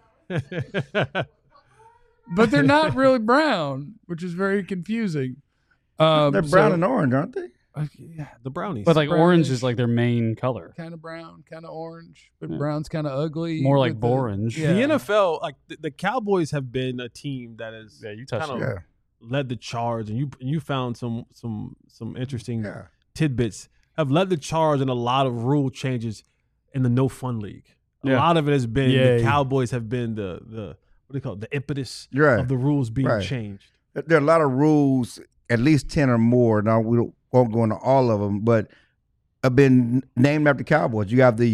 Speaker 1: But they're not really brown, which is very confusing. Um,
Speaker 2: They're brown and orange, aren't they?
Speaker 1: uh, yeah,
Speaker 3: The brownies.
Speaker 4: But like orange
Speaker 1: brownish.
Speaker 4: is like their main color.
Speaker 1: kind of brown, kind of orange, but
Speaker 4: Yeah.
Speaker 1: brown's kind of ugly.
Speaker 4: More like
Speaker 1: with the-
Speaker 4: borange.
Speaker 1: Yeah.
Speaker 3: the N F L, like the, the Cowboys, have been a team that has
Speaker 4: Yeah, you touched
Speaker 3: kind
Speaker 4: it.
Speaker 3: of
Speaker 2: Yeah.
Speaker 3: led the charge, and you you found some some some interesting
Speaker 2: Yeah.
Speaker 3: tidbits. Have led the charge in a lot of rule changes in the no fun league. A
Speaker 4: Yeah.
Speaker 3: lot of it has been
Speaker 1: Yay.
Speaker 3: the Cowboys have been the the what do you call it, the impetus
Speaker 2: Right.
Speaker 3: of the rules being
Speaker 2: Right.
Speaker 3: changed.
Speaker 2: There are a lot of rules, at least ten or more. Now we don't, won't go into all of them, but have been named after Cowboys. You have the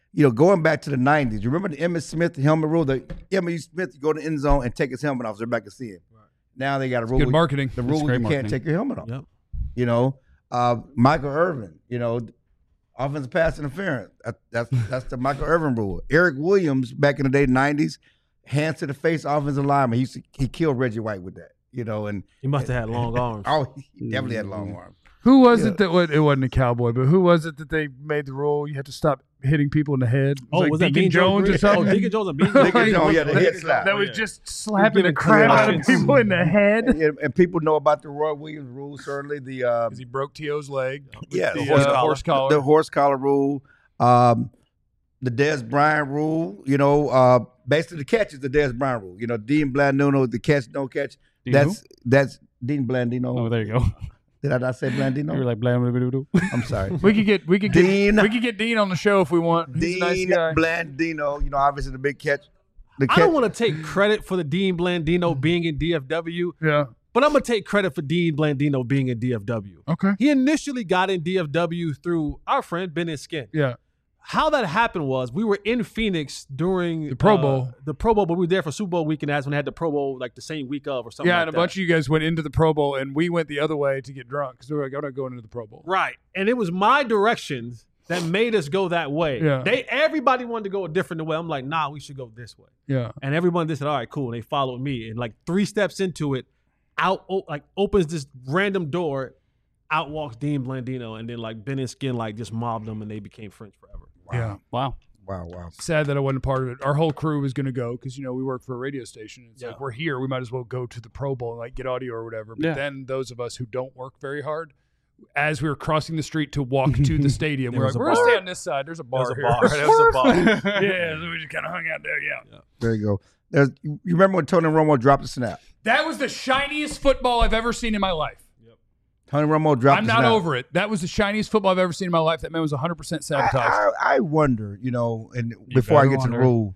Speaker 2: you know, going back to the nineties, you remember the Emmitt Smith helmet rule? The Emmitt Smith, you go to the end zone and take his helmet off so everybody can see him. Right. Now they got a rule.
Speaker 1: Good marketing.
Speaker 2: The rule you
Speaker 4: marketing.
Speaker 2: can't take your helmet off.
Speaker 3: Yep.
Speaker 2: You know, uh, Michael Irvin, you know, offensive pass interference. That, that's that's the Michael Irvin rule. Eric Williams, back in the day, nineties, hands to the face offensive lineman. He used to, he killed Reggie White with that. You know, and
Speaker 3: He must have had long arms.
Speaker 2: oh, he definitely had long arms.
Speaker 1: Who was
Speaker 2: Yeah.
Speaker 1: it that would, it wasn't a cowboy, but who was it that they made the rule you had to stop hitting people in the head? It
Speaker 3: Oh,
Speaker 1: like
Speaker 3: was that
Speaker 1: Deacon
Speaker 3: Bean
Speaker 1: Jones or
Speaker 3: Green?
Speaker 1: something?
Speaker 3: Oh, Deacon Jones and Bean
Speaker 2: Deacon
Speaker 3: Green.
Speaker 2: Jones, yeah, the head slap.
Speaker 1: that
Speaker 3: Oh,
Speaker 1: was
Speaker 3: yeah.
Speaker 1: just slapping the
Speaker 3: giving
Speaker 1: crap out of
Speaker 3: concussions.
Speaker 1: people in the head
Speaker 2: And, and people know about the Roy Williams rule. Certainly, the uh,
Speaker 1: because he broke T O's leg. with
Speaker 2: Yeah,
Speaker 1: the,
Speaker 2: the horse
Speaker 1: uh,
Speaker 3: collar.
Speaker 1: horse collar.
Speaker 2: the horse collar rule, um, the Dez Bryant rule. You know, uh, basically the catch is the Dez Bryant rule. You know, Dean Blandino, the catch, no catch.
Speaker 4: Dean
Speaker 2: that's that's Dean Blandino.
Speaker 4: Oh, there you go.
Speaker 2: Did I not say
Speaker 4: You were
Speaker 2: Blandino?
Speaker 4: like blah, blah, blah, blah, blah.
Speaker 2: I'm sorry.
Speaker 1: we could get we could get
Speaker 2: Dean-
Speaker 1: we could get Dean on the show if we want. He's
Speaker 2: Dean
Speaker 1: a nice guy.
Speaker 2: Blandino. You know, obviously the big catch. The
Speaker 3: I
Speaker 2: catch.
Speaker 3: don't want to take credit for the Dean Blandino being in D F W,
Speaker 1: Yeah.
Speaker 3: but I'm going to take credit for Dean Blandino being in D F W.
Speaker 1: Okay.
Speaker 3: He initially got in D F W through our friend Ben and Skin.
Speaker 1: Yeah.
Speaker 3: How that happened was we were in Phoenix during
Speaker 1: The Pro
Speaker 3: uh,
Speaker 1: Bowl.
Speaker 3: the Pro Bowl, but we were there for Super Bowl weekend. That's when they had the Pro Bowl like the same week of or something.
Speaker 1: Yeah,
Speaker 3: like
Speaker 1: and a
Speaker 3: that.
Speaker 1: bunch of you guys went into the Pro Bowl, and we went the other way to get drunk because we were like, I'm not going into the Pro Bowl.
Speaker 3: Right. And it was my directions that made us go that way.
Speaker 1: Yeah.
Speaker 3: They everybody wanted to go a different way. I'm like, nah, we should go this way.
Speaker 1: Yeah.
Speaker 3: And everyone just said, all right, cool. And they followed me. And like three steps into it, out o- like opens this random door, out walks Dean Blandino, and then like Ben and Skin like just mobbed them and they became friends forever.
Speaker 1: Yeah.
Speaker 4: Wow.
Speaker 2: Wow, wow.
Speaker 1: Sad that I wasn't a part of it. Our whole crew was going to go because, you know, we work for a radio station. It's
Speaker 3: Yeah.
Speaker 1: like, we're here. We might as well go to the Pro Bowl and, like, get audio or whatever. But
Speaker 4: Yeah.
Speaker 1: then those of us who don't work very hard, as we were crossing the street to walk to the stadium,
Speaker 3: There
Speaker 1: we're
Speaker 3: was
Speaker 1: like,
Speaker 3: a
Speaker 1: we're going to
Speaker 3: bar.
Speaker 1: stay on this side. There's a bar
Speaker 3: There's a
Speaker 1: here.
Speaker 3: bar. There's a bar.
Speaker 1: Yeah, so we just kind of hung out there. Yeah.
Speaker 2: There you go. There's, you remember when Tony Romo dropped the snap?
Speaker 1: That was the shiniest football I've ever seen in my life.
Speaker 2: Tony Romo dropped
Speaker 1: I'm
Speaker 2: the
Speaker 1: not
Speaker 2: snap.
Speaker 1: over it. That was the shiniest football I've ever seen in my life. That man was one hundred percent
Speaker 2: I,
Speaker 1: sabotaged.
Speaker 2: I, I wonder, you know, and before I
Speaker 4: better
Speaker 2: get to the
Speaker 4: wonder.
Speaker 2: rule,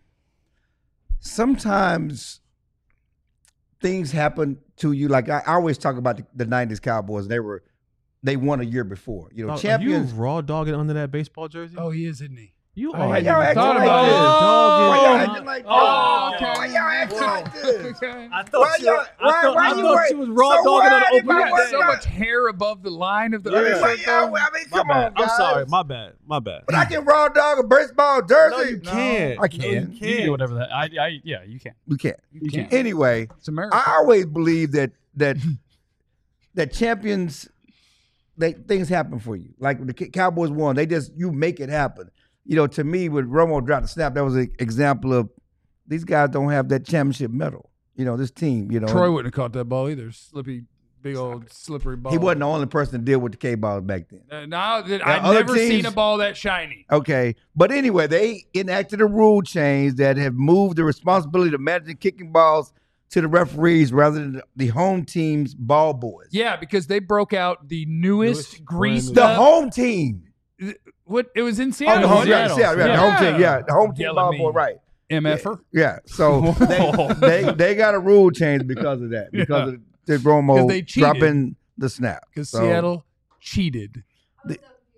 Speaker 2: sometimes things happen to you. Like I, I always talk about the, the nineties Cowboys. They were, they won a year before. You know,
Speaker 3: Oh,
Speaker 2: champions.
Speaker 3: Are you raw dogging under that baseball jersey?
Speaker 1: Oh, he is, isn't he?
Speaker 3: you
Speaker 1: I
Speaker 3: are.
Speaker 1: hadn't
Speaker 2: y'all
Speaker 1: even
Speaker 2: acting
Speaker 1: thought
Speaker 2: like
Speaker 1: about
Speaker 2: this?
Speaker 1: it.
Speaker 2: Why y'all
Speaker 1: Oh,
Speaker 2: acting like
Speaker 1: oh,
Speaker 2: this?
Speaker 1: okay.
Speaker 2: Why y'all acting like this?
Speaker 1: Okay.
Speaker 3: I
Speaker 2: Why
Speaker 3: thought you,
Speaker 2: y'all-
Speaker 3: I
Speaker 2: why-
Speaker 3: thought,
Speaker 2: why
Speaker 3: I
Speaker 2: you
Speaker 3: thought
Speaker 2: wait-
Speaker 3: she was raw
Speaker 2: so
Speaker 3: dogging on
Speaker 2: why
Speaker 3: the
Speaker 2: did
Speaker 3: open
Speaker 2: my
Speaker 1: We
Speaker 3: mic.
Speaker 1: got
Speaker 2: work
Speaker 1: so
Speaker 2: out?
Speaker 1: much hair above the line of the
Speaker 2: Why
Speaker 1: other
Speaker 2: y'all-
Speaker 1: shirt, though.
Speaker 2: I mean,
Speaker 3: My
Speaker 2: come
Speaker 3: bad.
Speaker 2: on, guys.
Speaker 3: I'm sorry. My bad. My bad.
Speaker 2: But I can raw dog a baseball jersey.
Speaker 3: No, you can't.
Speaker 2: I
Speaker 3: No,
Speaker 2: can.
Speaker 3: you
Speaker 4: You can
Speaker 3: can't.
Speaker 4: do whatever that. I, I, yeah, you can.
Speaker 2: You can't.
Speaker 4: You can.
Speaker 2: Anyway,
Speaker 1: It's America.
Speaker 2: I always believe that that that champions, they things happen for you. Like when the Ca- Cowboys won, they just you make it happen. You know, to me, when Romo dropped the snap, that was an example of these guys don't have that championship medal. You know, this team. You know,
Speaker 1: Troy wouldn't have caught that ball either. Slippy, big old slippery ball.
Speaker 2: he wasn't the only person to deal with the K balls back then.
Speaker 1: Uh, no, that-
Speaker 2: Now,
Speaker 1: I've
Speaker 2: other
Speaker 1: never
Speaker 2: teams-
Speaker 1: seen a ball that shiny.
Speaker 2: Okay, but anyway, they enacted a rule change that have moved the responsibility of managing kicking balls to the referees rather than the home team's ball boys.
Speaker 1: Yeah, because they broke out the newest,
Speaker 3: Newest,
Speaker 1: greased
Speaker 3: brand new-
Speaker 2: The
Speaker 1: up.
Speaker 2: home team.
Speaker 1: What it was in
Speaker 2: Oh,
Speaker 1: Seattle.
Speaker 2: the home, yeah,
Speaker 4: Seattle.
Speaker 2: yeah, yeah, the home team, yeah, the home team
Speaker 1: Yelling
Speaker 2: ball
Speaker 1: me.
Speaker 2: boy, right?
Speaker 1: MFer.
Speaker 2: Yeah, so they, they they got a rule change because of that, because
Speaker 1: Yeah.
Speaker 2: of the Romo
Speaker 1: 'Cause they cheated.
Speaker 2: dropping the snap.
Speaker 1: Because
Speaker 2: So,
Speaker 1: Seattle cheated.
Speaker 2: The-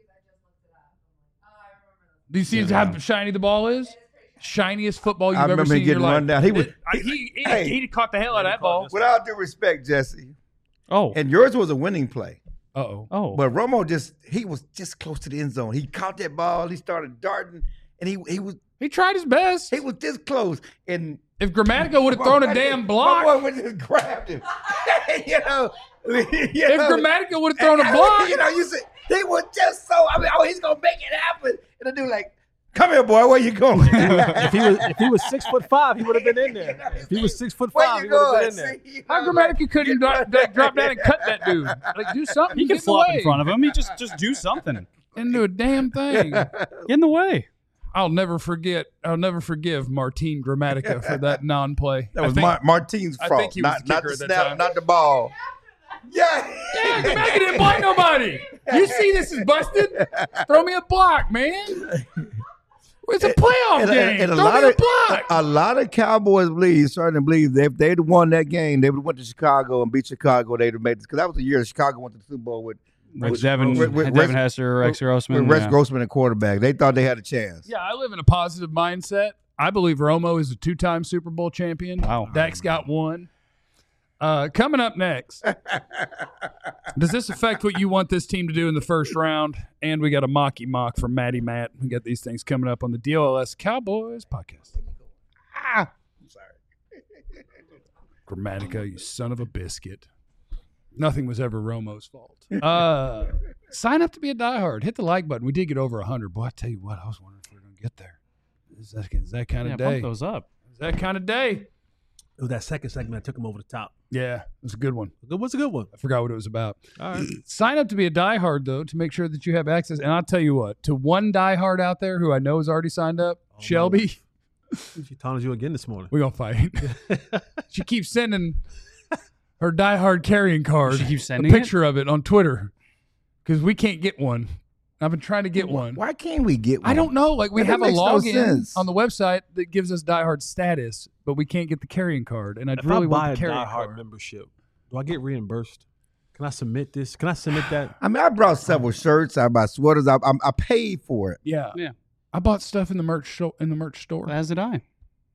Speaker 1: Do you see how shiny the ball is? Shiniest football you've
Speaker 2: I
Speaker 1: ever
Speaker 2: remember
Speaker 1: seen
Speaker 2: him
Speaker 1: in your
Speaker 2: getting
Speaker 1: life.
Speaker 2: run down. He was,
Speaker 1: It- I- he, he,
Speaker 2: Hey.
Speaker 1: he caught the hell out of that ball.
Speaker 2: without due respect, Jesse,
Speaker 4: Oh.
Speaker 2: and yours was a winning play.
Speaker 1: Uh-oh.
Speaker 4: Oh.
Speaker 2: But Romo just he was just close to the end zone. He caught that ball. He started darting, and he he was
Speaker 1: He tried his best.
Speaker 2: he was this close. And
Speaker 1: If Grammatico would have thrown a damn block,
Speaker 2: my boy would just grabbed him. you know, you
Speaker 1: if
Speaker 2: know,
Speaker 1: Grammatico would have thrown a
Speaker 2: and-
Speaker 1: block,
Speaker 2: you know, you see, he was just so. I mean, oh, he's gonna make it happen. And the dude like, come here, boy. Where you going?
Speaker 3: if he was if he was six foot five, he would have been in there. If he was six foot
Speaker 2: Where
Speaker 3: five,
Speaker 2: you
Speaker 3: he would have
Speaker 2: going?
Speaker 3: been in there.
Speaker 2: See, you
Speaker 1: how
Speaker 2: know,
Speaker 1: Grammatico
Speaker 2: like,
Speaker 1: couldn't
Speaker 2: get-
Speaker 1: drop, drop down and cut that dude? Like, do something.
Speaker 4: He
Speaker 1: Get
Speaker 4: can
Speaker 1: in the
Speaker 4: flop
Speaker 1: way.
Speaker 4: in front of him. He just just do something.
Speaker 1: Didn't do a damn thing.
Speaker 4: Get in the way.
Speaker 1: I'll never forget. I'll never forgive Martin Grammatica for that non-play.
Speaker 2: That
Speaker 1: I
Speaker 2: was
Speaker 1: think-
Speaker 2: Mar- Martine's
Speaker 1: I
Speaker 2: fault,
Speaker 1: think he was
Speaker 2: not,
Speaker 1: the
Speaker 2: not
Speaker 1: kicker
Speaker 2: the
Speaker 1: at that
Speaker 2: snap,
Speaker 1: time.
Speaker 2: not the ball. Yeah,
Speaker 1: Yeah, Grammatica didn't block nobody. You see this is busted? Throw me a block, man. It's a playoff
Speaker 2: and,
Speaker 1: game.
Speaker 2: and, and a
Speaker 1: Throw
Speaker 2: lot
Speaker 1: me
Speaker 2: of
Speaker 1: a block.
Speaker 2: a lot of Cowboys believe, starting to believe that if they'd won that game, they would have went to Chicago and beat Chicago. They'd have made it because that was the year Chicago went to the Super Bowl with
Speaker 4: With Devin,
Speaker 2: with- with
Speaker 4: Devin
Speaker 2: Rex-
Speaker 4: Hester, Rex
Speaker 2: with
Speaker 4: Grossman.
Speaker 2: Rex
Speaker 4: yeah.
Speaker 2: Grossman at quarterback. They thought they had a chance.
Speaker 1: Yeah, I live in a positive mindset. I believe Romo is a two-time Super Bowl champion.
Speaker 4: Wow.
Speaker 1: Dak's got one. Uh, coming up next, does this affect what you want this team to do in the first round? And we got a mocky mock from Matty Matt. We got these things coming up on the D L S Cowboys podcast.
Speaker 2: Ah, I'm sorry.
Speaker 1: Grammatica, you son of a biscuit. Nothing was ever Romo's fault. Uh, sign up to be a diehard. Hit the like button. We did get over one hundred. Boy, I tell you what, I was wondering if we were going to get there. Is that, is that kind
Speaker 4: Yeah,
Speaker 1: of
Speaker 4: bump
Speaker 1: day?
Speaker 4: those up.
Speaker 1: Is that kind of day?
Speaker 3: It was that second segment that took him over the top.
Speaker 1: Yeah, it was a good one.
Speaker 3: It was a good one.
Speaker 1: I forgot what it was about.
Speaker 3: All right.
Speaker 1: Sign up to be a diehard, though, to make sure that you have access. And I'll tell you what, to one diehard out there who I know has already signed up,
Speaker 3: Oh,
Speaker 1: Shelby,
Speaker 3: She taunted you again this morning.
Speaker 1: we're going to fight. She keeps sending her diehard carrying card,
Speaker 4: She keeps
Speaker 1: a
Speaker 4: sending
Speaker 1: picture of it on Twitter, because we can't get one. I've been trying to get one.
Speaker 2: Why can't we get one?
Speaker 1: I don't know. Like, we
Speaker 2: That
Speaker 1: have a
Speaker 2: makes no
Speaker 1: login
Speaker 2: sense.
Speaker 1: on the website that gives us diehard status, but we can't get the carrying card. And I
Speaker 3: If
Speaker 1: really
Speaker 3: I buy
Speaker 1: want
Speaker 3: a
Speaker 1: the carrying
Speaker 3: Die Hard
Speaker 1: card.
Speaker 3: membership, do I get reimbursed? Can I submit this? Can I submit that?
Speaker 2: I mean, I brought several shirts. I bought sweaters. I, I, I paid for it.
Speaker 1: Yeah.
Speaker 4: Yeah.
Speaker 1: I bought stuff in the merch show, in the merch store.
Speaker 4: As did I.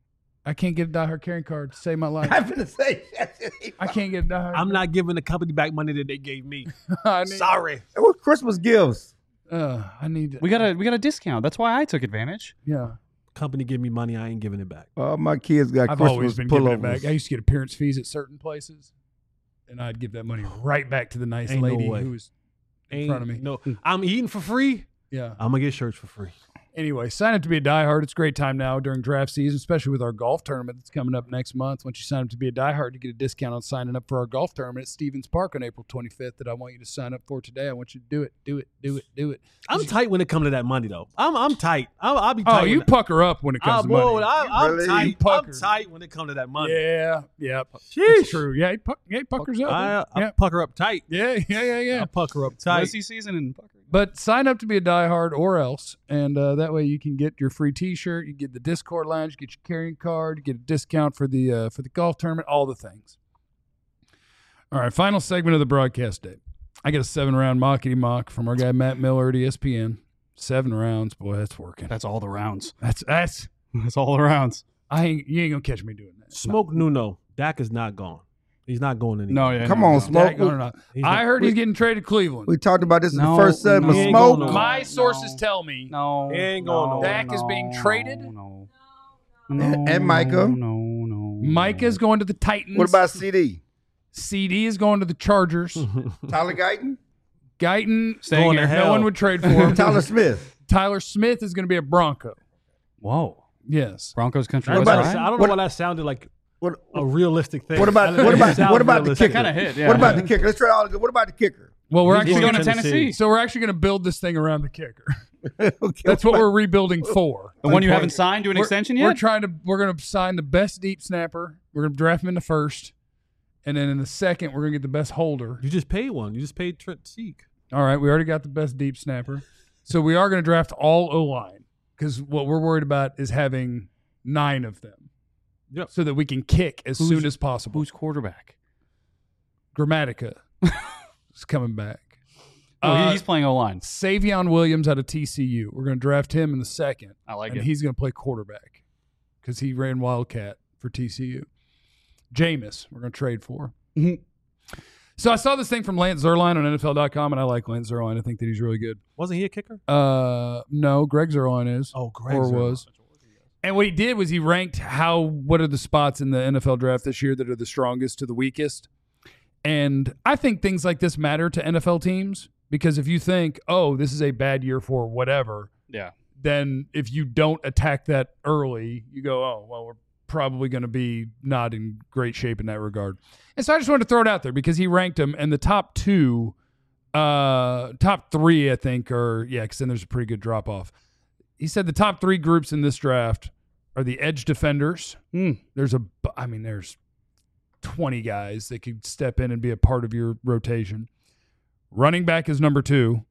Speaker 1: I can't get a diehard carrying card to save my life.
Speaker 2: I'm gonna say
Speaker 1: I can't get a diehard.
Speaker 3: I'm not giving the company back money that they gave me.
Speaker 1: I need,
Speaker 3: Sorry.
Speaker 2: It was Christmas gifts.
Speaker 1: Uh, I need.
Speaker 4: We got a we got a discount. That's why I took advantage.
Speaker 1: Yeah.
Speaker 3: Company give me money, I ain't giving it back.
Speaker 2: All my kids got
Speaker 1: I've
Speaker 2: Christmas
Speaker 1: always been giving it
Speaker 2: pullovers.
Speaker 1: back. I used to get appearance fees at certain places, and I'd give that money right back to the nice
Speaker 3: Ain't no
Speaker 1: lady
Speaker 3: way.
Speaker 1: who was in
Speaker 3: Ain't
Speaker 1: front of me.
Speaker 3: No, I'm eating for free.
Speaker 1: Yeah.
Speaker 3: I'm gonna get shirts for free.
Speaker 1: Anyway, sign up to be a diehard. It's a great time now during draft season, especially with our golf tournament that's coming up next month. Once you sign up to be a diehard, you get a discount on signing up for our golf tournament at Stevens Park on April twenty-fifth that I want you to sign up for today. I want you to do it, do it, do it, do it.
Speaker 3: I'm tight when it comes to that money, though. I'm I'm tight. I'm, I'll be
Speaker 1: Oh,
Speaker 3: tight.
Speaker 1: you
Speaker 3: when
Speaker 1: pucker up when it comes
Speaker 3: I,
Speaker 1: to
Speaker 3: boy,
Speaker 1: money.
Speaker 3: I, I'm
Speaker 2: Really?
Speaker 3: tight.
Speaker 1: You pucker.
Speaker 3: I'm tight when it comes to that money.
Speaker 1: Yeah, yeah. It's
Speaker 3: Sheesh.
Speaker 1: true. Yeah, he, puck, yeah, he puckers up.
Speaker 3: I, I
Speaker 1: yeah.
Speaker 3: pucker up tight.
Speaker 1: yeah, yeah, yeah, yeah.
Speaker 3: I pucker up tight.
Speaker 4: Rookie season and
Speaker 1: But sign up to be a diehard or else, and uh, that way you can get your free T-shirt, you get the Discord lounge, you get your carrying card, you get a discount for the uh, for the golf tournament, all the things. All right, final segment of the broadcast day. I get a seven round mockety mock from our guy Matt Miller at E S P N. Seven rounds, boy, that's working.
Speaker 4: that's all the rounds.
Speaker 1: That's that's.
Speaker 4: That's all the rounds.
Speaker 1: I ain't you ain't gonna catch me doing that.
Speaker 3: Smoke Nuno. Dak is not gone. He's not going anywhere.
Speaker 4: No, yeah.
Speaker 2: Come
Speaker 4: no,
Speaker 2: on,
Speaker 4: no.
Speaker 2: Smoke.
Speaker 1: Dak or not.
Speaker 3: He's
Speaker 1: I
Speaker 3: not-
Speaker 1: heard he's getting traded to Cleveland.
Speaker 2: We talked about this in
Speaker 4: No,
Speaker 2: the first segment.
Speaker 3: no. He ain't
Speaker 2: Smoke.
Speaker 3: going
Speaker 1: My
Speaker 3: no.
Speaker 1: sources tell me
Speaker 4: No.
Speaker 3: He ain't going
Speaker 4: no,
Speaker 3: nowhere.
Speaker 1: Dak is being
Speaker 4: no,
Speaker 1: traded?
Speaker 4: No.
Speaker 2: And-
Speaker 4: No,
Speaker 2: and Micah.
Speaker 4: No, no.
Speaker 1: Micah's going to the Titans.
Speaker 2: What about C D?
Speaker 1: C D is going to the Chargers.
Speaker 2: Tyler Guyton?
Speaker 1: Guyton,
Speaker 4: Staying
Speaker 3: Going to
Speaker 1: no
Speaker 3: hell.
Speaker 1: one would trade for him.
Speaker 2: Tyler Smith.
Speaker 1: Tyler Smith is going to be a Bronco.
Speaker 4: Whoa.
Speaker 1: Yes.
Speaker 4: Broncos country.
Speaker 3: That
Speaker 4: West
Speaker 2: about-
Speaker 3: sounded-
Speaker 4: Ryan?
Speaker 3: I don't
Speaker 2: What-
Speaker 3: know why that sounded like
Speaker 2: What,
Speaker 3: a realistic thing.
Speaker 2: what about
Speaker 3: That
Speaker 2: what about
Speaker 3: sounds
Speaker 2: what about the
Speaker 3: realistic.
Speaker 2: kicker?
Speaker 4: Kinda hit, yeah.
Speaker 2: What about the kicker? Let's try all. What about the kicker?
Speaker 1: Well, we're
Speaker 3: He's
Speaker 1: actually
Speaker 4: going
Speaker 1: going
Speaker 4: to
Speaker 1: to
Speaker 3: Tennessee.
Speaker 4: Tennessee.
Speaker 1: So we're actually going to build this thing around the kicker.
Speaker 2: Okay,
Speaker 1: That's what we're rebuilding for.
Speaker 4: The one you haven't signed to an
Speaker 1: We're-
Speaker 4: extension
Speaker 1: We're
Speaker 4: yet?
Speaker 1: trying to. We're going to sign the best deep snapper. We're going to draft him in the first, and then in the second, we're going to get the best holder.
Speaker 3: You just paid one. You just paid Trent Seek.
Speaker 1: All right, we already got the best deep snapper. So we are going to draft all O-line because what we're worried about is having nine of them.
Speaker 3: Yep.
Speaker 1: So that we can kick as
Speaker 4: Who's-
Speaker 1: soon as possible.
Speaker 4: Who's quarterback?
Speaker 1: Grammatica is coming back.
Speaker 4: Oh,
Speaker 1: Uh,
Speaker 4: he's playing O line.
Speaker 1: Savion Williams out of T C U. We're going to draft him in the second,
Speaker 4: I like
Speaker 1: and
Speaker 4: it.
Speaker 1: he's going to play quarterback because he ran Wildcat for T C U. Jameis, we're going to trade for.
Speaker 4: Mhm.
Speaker 1: So I saw this thing from Lance Zerline on N F L dot com, and I like Lance Zerline. I think that he's really good.
Speaker 3: Wasn't he a kicker?
Speaker 1: Uh, no, Greg Zerline is.
Speaker 3: Oh, Greg
Speaker 1: or
Speaker 3: Zerline.
Speaker 1: was. And what he did was he ranked how what are the spots in the N F L draft this year that are the strongest to the weakest. And I think things like this matter to N F L teams because if you think, oh, this is a bad year for whatever,
Speaker 4: Yeah.
Speaker 1: then if you don't attack that early, you go, oh, well, we're probably going to be not in great shape in that regard. And so I just wanted to throw it out there because he ranked them, and the top two, uh, top three, I think, are, yeah, because then there's a pretty good drop off. He said the top three groups in this draft are the edge defenders.
Speaker 4: Mm.
Speaker 1: There's a, bu- I mean, there's twenty guys that could step in and be a part of your rotation. Running back is number two.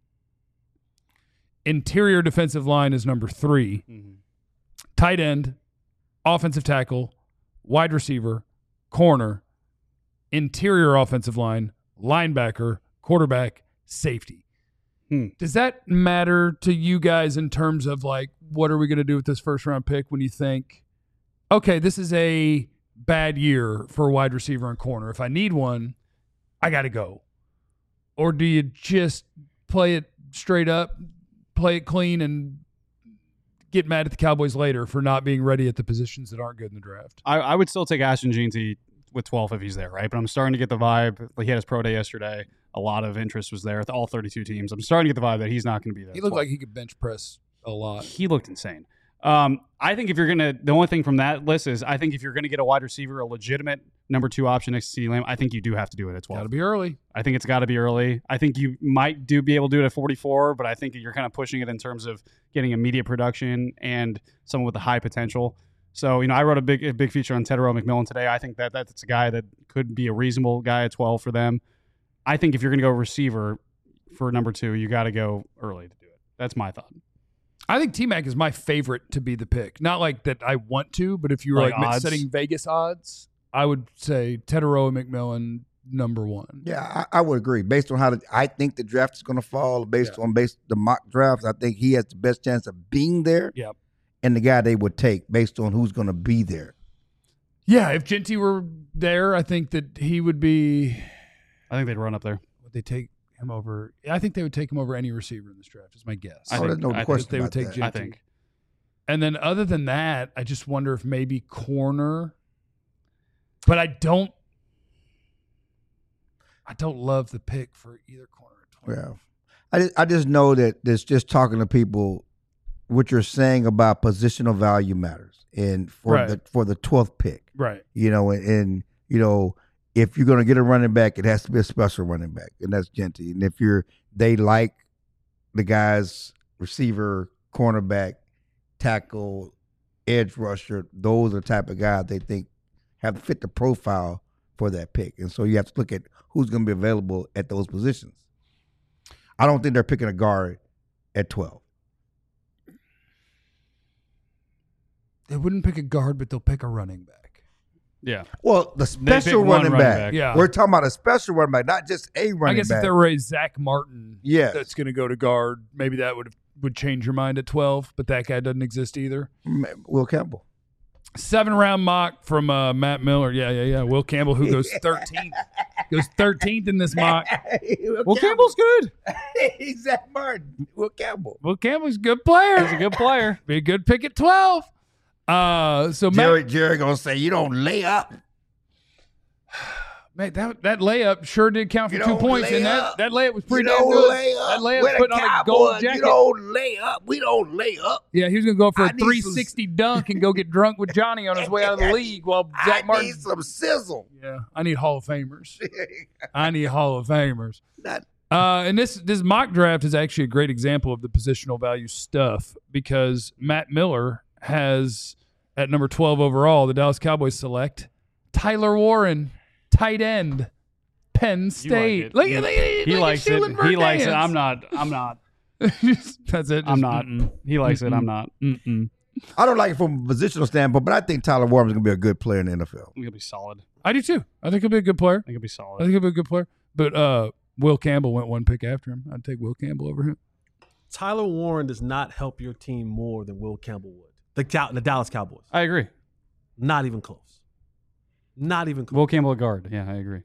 Speaker 1: Interior defensive line is number three.
Speaker 4: Mm-hmm.
Speaker 1: Tight end, offensive tackle, wide receiver, corner, interior offensive line, linebacker, quarterback, safety.
Speaker 4: Hmm.
Speaker 1: Does that matter to you guys in terms of like, what are we going to do with this first round pick when you think, okay, this is a bad year for a wide receiver and corner. If I need one, I got to go. Or do you just play it straight up, play it clean, and get mad at the Cowboys later for not being ready at the positions that aren't good in the draft?
Speaker 4: I, I would still take Ashton Jeanty with twelve if he's there, right? But I'm starting to get the vibe. Like, he had his pro day yesterday. A lot of interest was there with all thirty-two teams. I'm starting to get the vibe that he's not going to be there.
Speaker 1: He looked
Speaker 4: twelve.
Speaker 1: like he could bench press a lot.
Speaker 4: He looked insane. Um, I think if you're going to, the only thing from that list is I think if you're going to get a wide receiver, a legitimate number two option next to CeeDee Lamb, I think you do have to do it at twelve.
Speaker 1: Got to be early.
Speaker 4: I think it's got to be early. I think you might do be able to do it at forty-four, but I think you're kind of pushing it in terms of getting immediate production and someone with a high potential. So, you know, I wrote a big a big feature on Tedero McMillan today. I think that that's a guy that could be a reasonable guy at twelve for them. I think if you're going to go receiver for number two, you got to go early to do it. That's my thought.
Speaker 1: I think T-Mac is my favorite to be the pick. Not like that I want to, but if you were
Speaker 4: Like
Speaker 1: like,
Speaker 4: odds?
Speaker 1: setting Vegas odds, I would say Tedero McMillan number one.
Speaker 2: Yeah, I, I would agree. Based on how the, I think the draft is going to fall, based
Speaker 1: Yeah.
Speaker 2: on based the mock drafts, I think he has the best chance of being there.
Speaker 1: Yep.
Speaker 2: And the guy they would take based on who's going to be there.
Speaker 1: Yeah, if Genty were there, I think that he would be.
Speaker 4: I think they'd run up there.
Speaker 1: Would they take him over? I think they would take him over any receiver in this draft. Is my guess.
Speaker 4: I
Speaker 2: oh,
Speaker 4: think-
Speaker 2: there's no
Speaker 4: I think
Speaker 2: question
Speaker 1: they would
Speaker 2: about
Speaker 1: take
Speaker 2: that.
Speaker 1: Genty.
Speaker 4: I think.
Speaker 1: And then other than that, I just wonder if maybe corner. But I don't. I don't love the pick for either corner. At twelve.
Speaker 2: Yeah, I just, I just know that there's just talking to people. What you're saying about positional value matters, and for
Speaker 1: Right.
Speaker 2: the for the twelfth pick,
Speaker 1: Right.
Speaker 2: you know, and, and you know, if you're going to get a running back, it has to be a special running back, and that's Genty. And if you're they like the guys receiver, cornerback, tackle, edge rusher, those are the type of guys they think have to fit the profile for that pick. And so you have to look at who's going to be available at those positions. I don't think they're picking a guard at twelve.
Speaker 1: They wouldn't pick a guard, but they'll pick a running back.
Speaker 4: Yeah.
Speaker 2: Well, the
Speaker 4: pick
Speaker 2: special
Speaker 4: one
Speaker 2: running,
Speaker 4: running
Speaker 2: back.
Speaker 4: back.
Speaker 1: Yeah.
Speaker 2: We're talking about a special running back, not just a running
Speaker 1: I guess
Speaker 2: back.
Speaker 1: if there were a Zach Martin
Speaker 2: Yes.
Speaker 1: that's going to go to guard, maybe that would would change your mind at twelve, but that guy doesn't exist either.
Speaker 2: Will Campbell.
Speaker 1: Seven round mock from uh, Matt Miller. Yeah, yeah, yeah. Will Campbell, who goes thirteenth. Goes thirteenth in this mock.
Speaker 2: Will
Speaker 1: Well, Campbell's good.
Speaker 2: He's Zach Martin. Will Campbell.
Speaker 1: Will Campbell's a good player.
Speaker 4: He's a good player.
Speaker 1: Be a good pick at twelve. Uh, so
Speaker 2: Jerry,
Speaker 1: Matt,
Speaker 2: Jerry gonna say you don't lay up.
Speaker 1: man, that that layup sure did count for
Speaker 2: You
Speaker 1: two
Speaker 2: don't
Speaker 1: points,
Speaker 2: lay
Speaker 1: and
Speaker 2: up.
Speaker 1: that, that layup was pretty
Speaker 2: you
Speaker 1: damn
Speaker 2: don't
Speaker 1: good.
Speaker 2: lay up.
Speaker 1: That layup
Speaker 2: We're the
Speaker 1: putting on a
Speaker 2: Cowboys.
Speaker 1: gold jacket.
Speaker 2: You don't lay up. We don't lay up.
Speaker 1: Yeah, he was going to go for
Speaker 2: I
Speaker 1: a
Speaker 2: need some-
Speaker 1: three sixty dunk and go get drunk with Johnny on his way out of the league while Zach
Speaker 2: I
Speaker 1: Martin.
Speaker 2: need some sizzle.
Speaker 1: Yeah, I need Hall of Famers. I need Hall of Famers.
Speaker 2: Not-
Speaker 1: Uh, and this this mock draft is actually a great example of the positional value stuff because Matt Miller has at number twelve overall, the Dallas Cowboys select Tyler Warren, tight end, Penn State.
Speaker 4: it.
Speaker 1: Look
Speaker 4: He-
Speaker 1: at that.
Speaker 4: He likes it. He likes it. I'm not. I'm not.
Speaker 1: That's it.
Speaker 4: I'm
Speaker 1: Just,
Speaker 4: not.
Speaker 1: mm-mm,
Speaker 4: He likes it. I'm not.
Speaker 1: mm-mm.
Speaker 2: I don't like it from a positional standpoint, but I think Tyler Warren's gonna be a good player in the N F L.
Speaker 4: I think he'll be solid.
Speaker 1: I do too. I think he'll be a good player.
Speaker 4: I think he'll be
Speaker 1: I
Speaker 4: solid.
Speaker 1: think he'll be a good player. But uh, Will Campbell went one pick after him. I'd take Will Campbell over him.
Speaker 3: Tyler Warren does not help your team more than Will Campbell would. The Cow- the Dallas Cowboys.
Speaker 4: I agree.
Speaker 3: Not even close. Not even close.
Speaker 4: Will Campbell a guard. Yeah, I agree.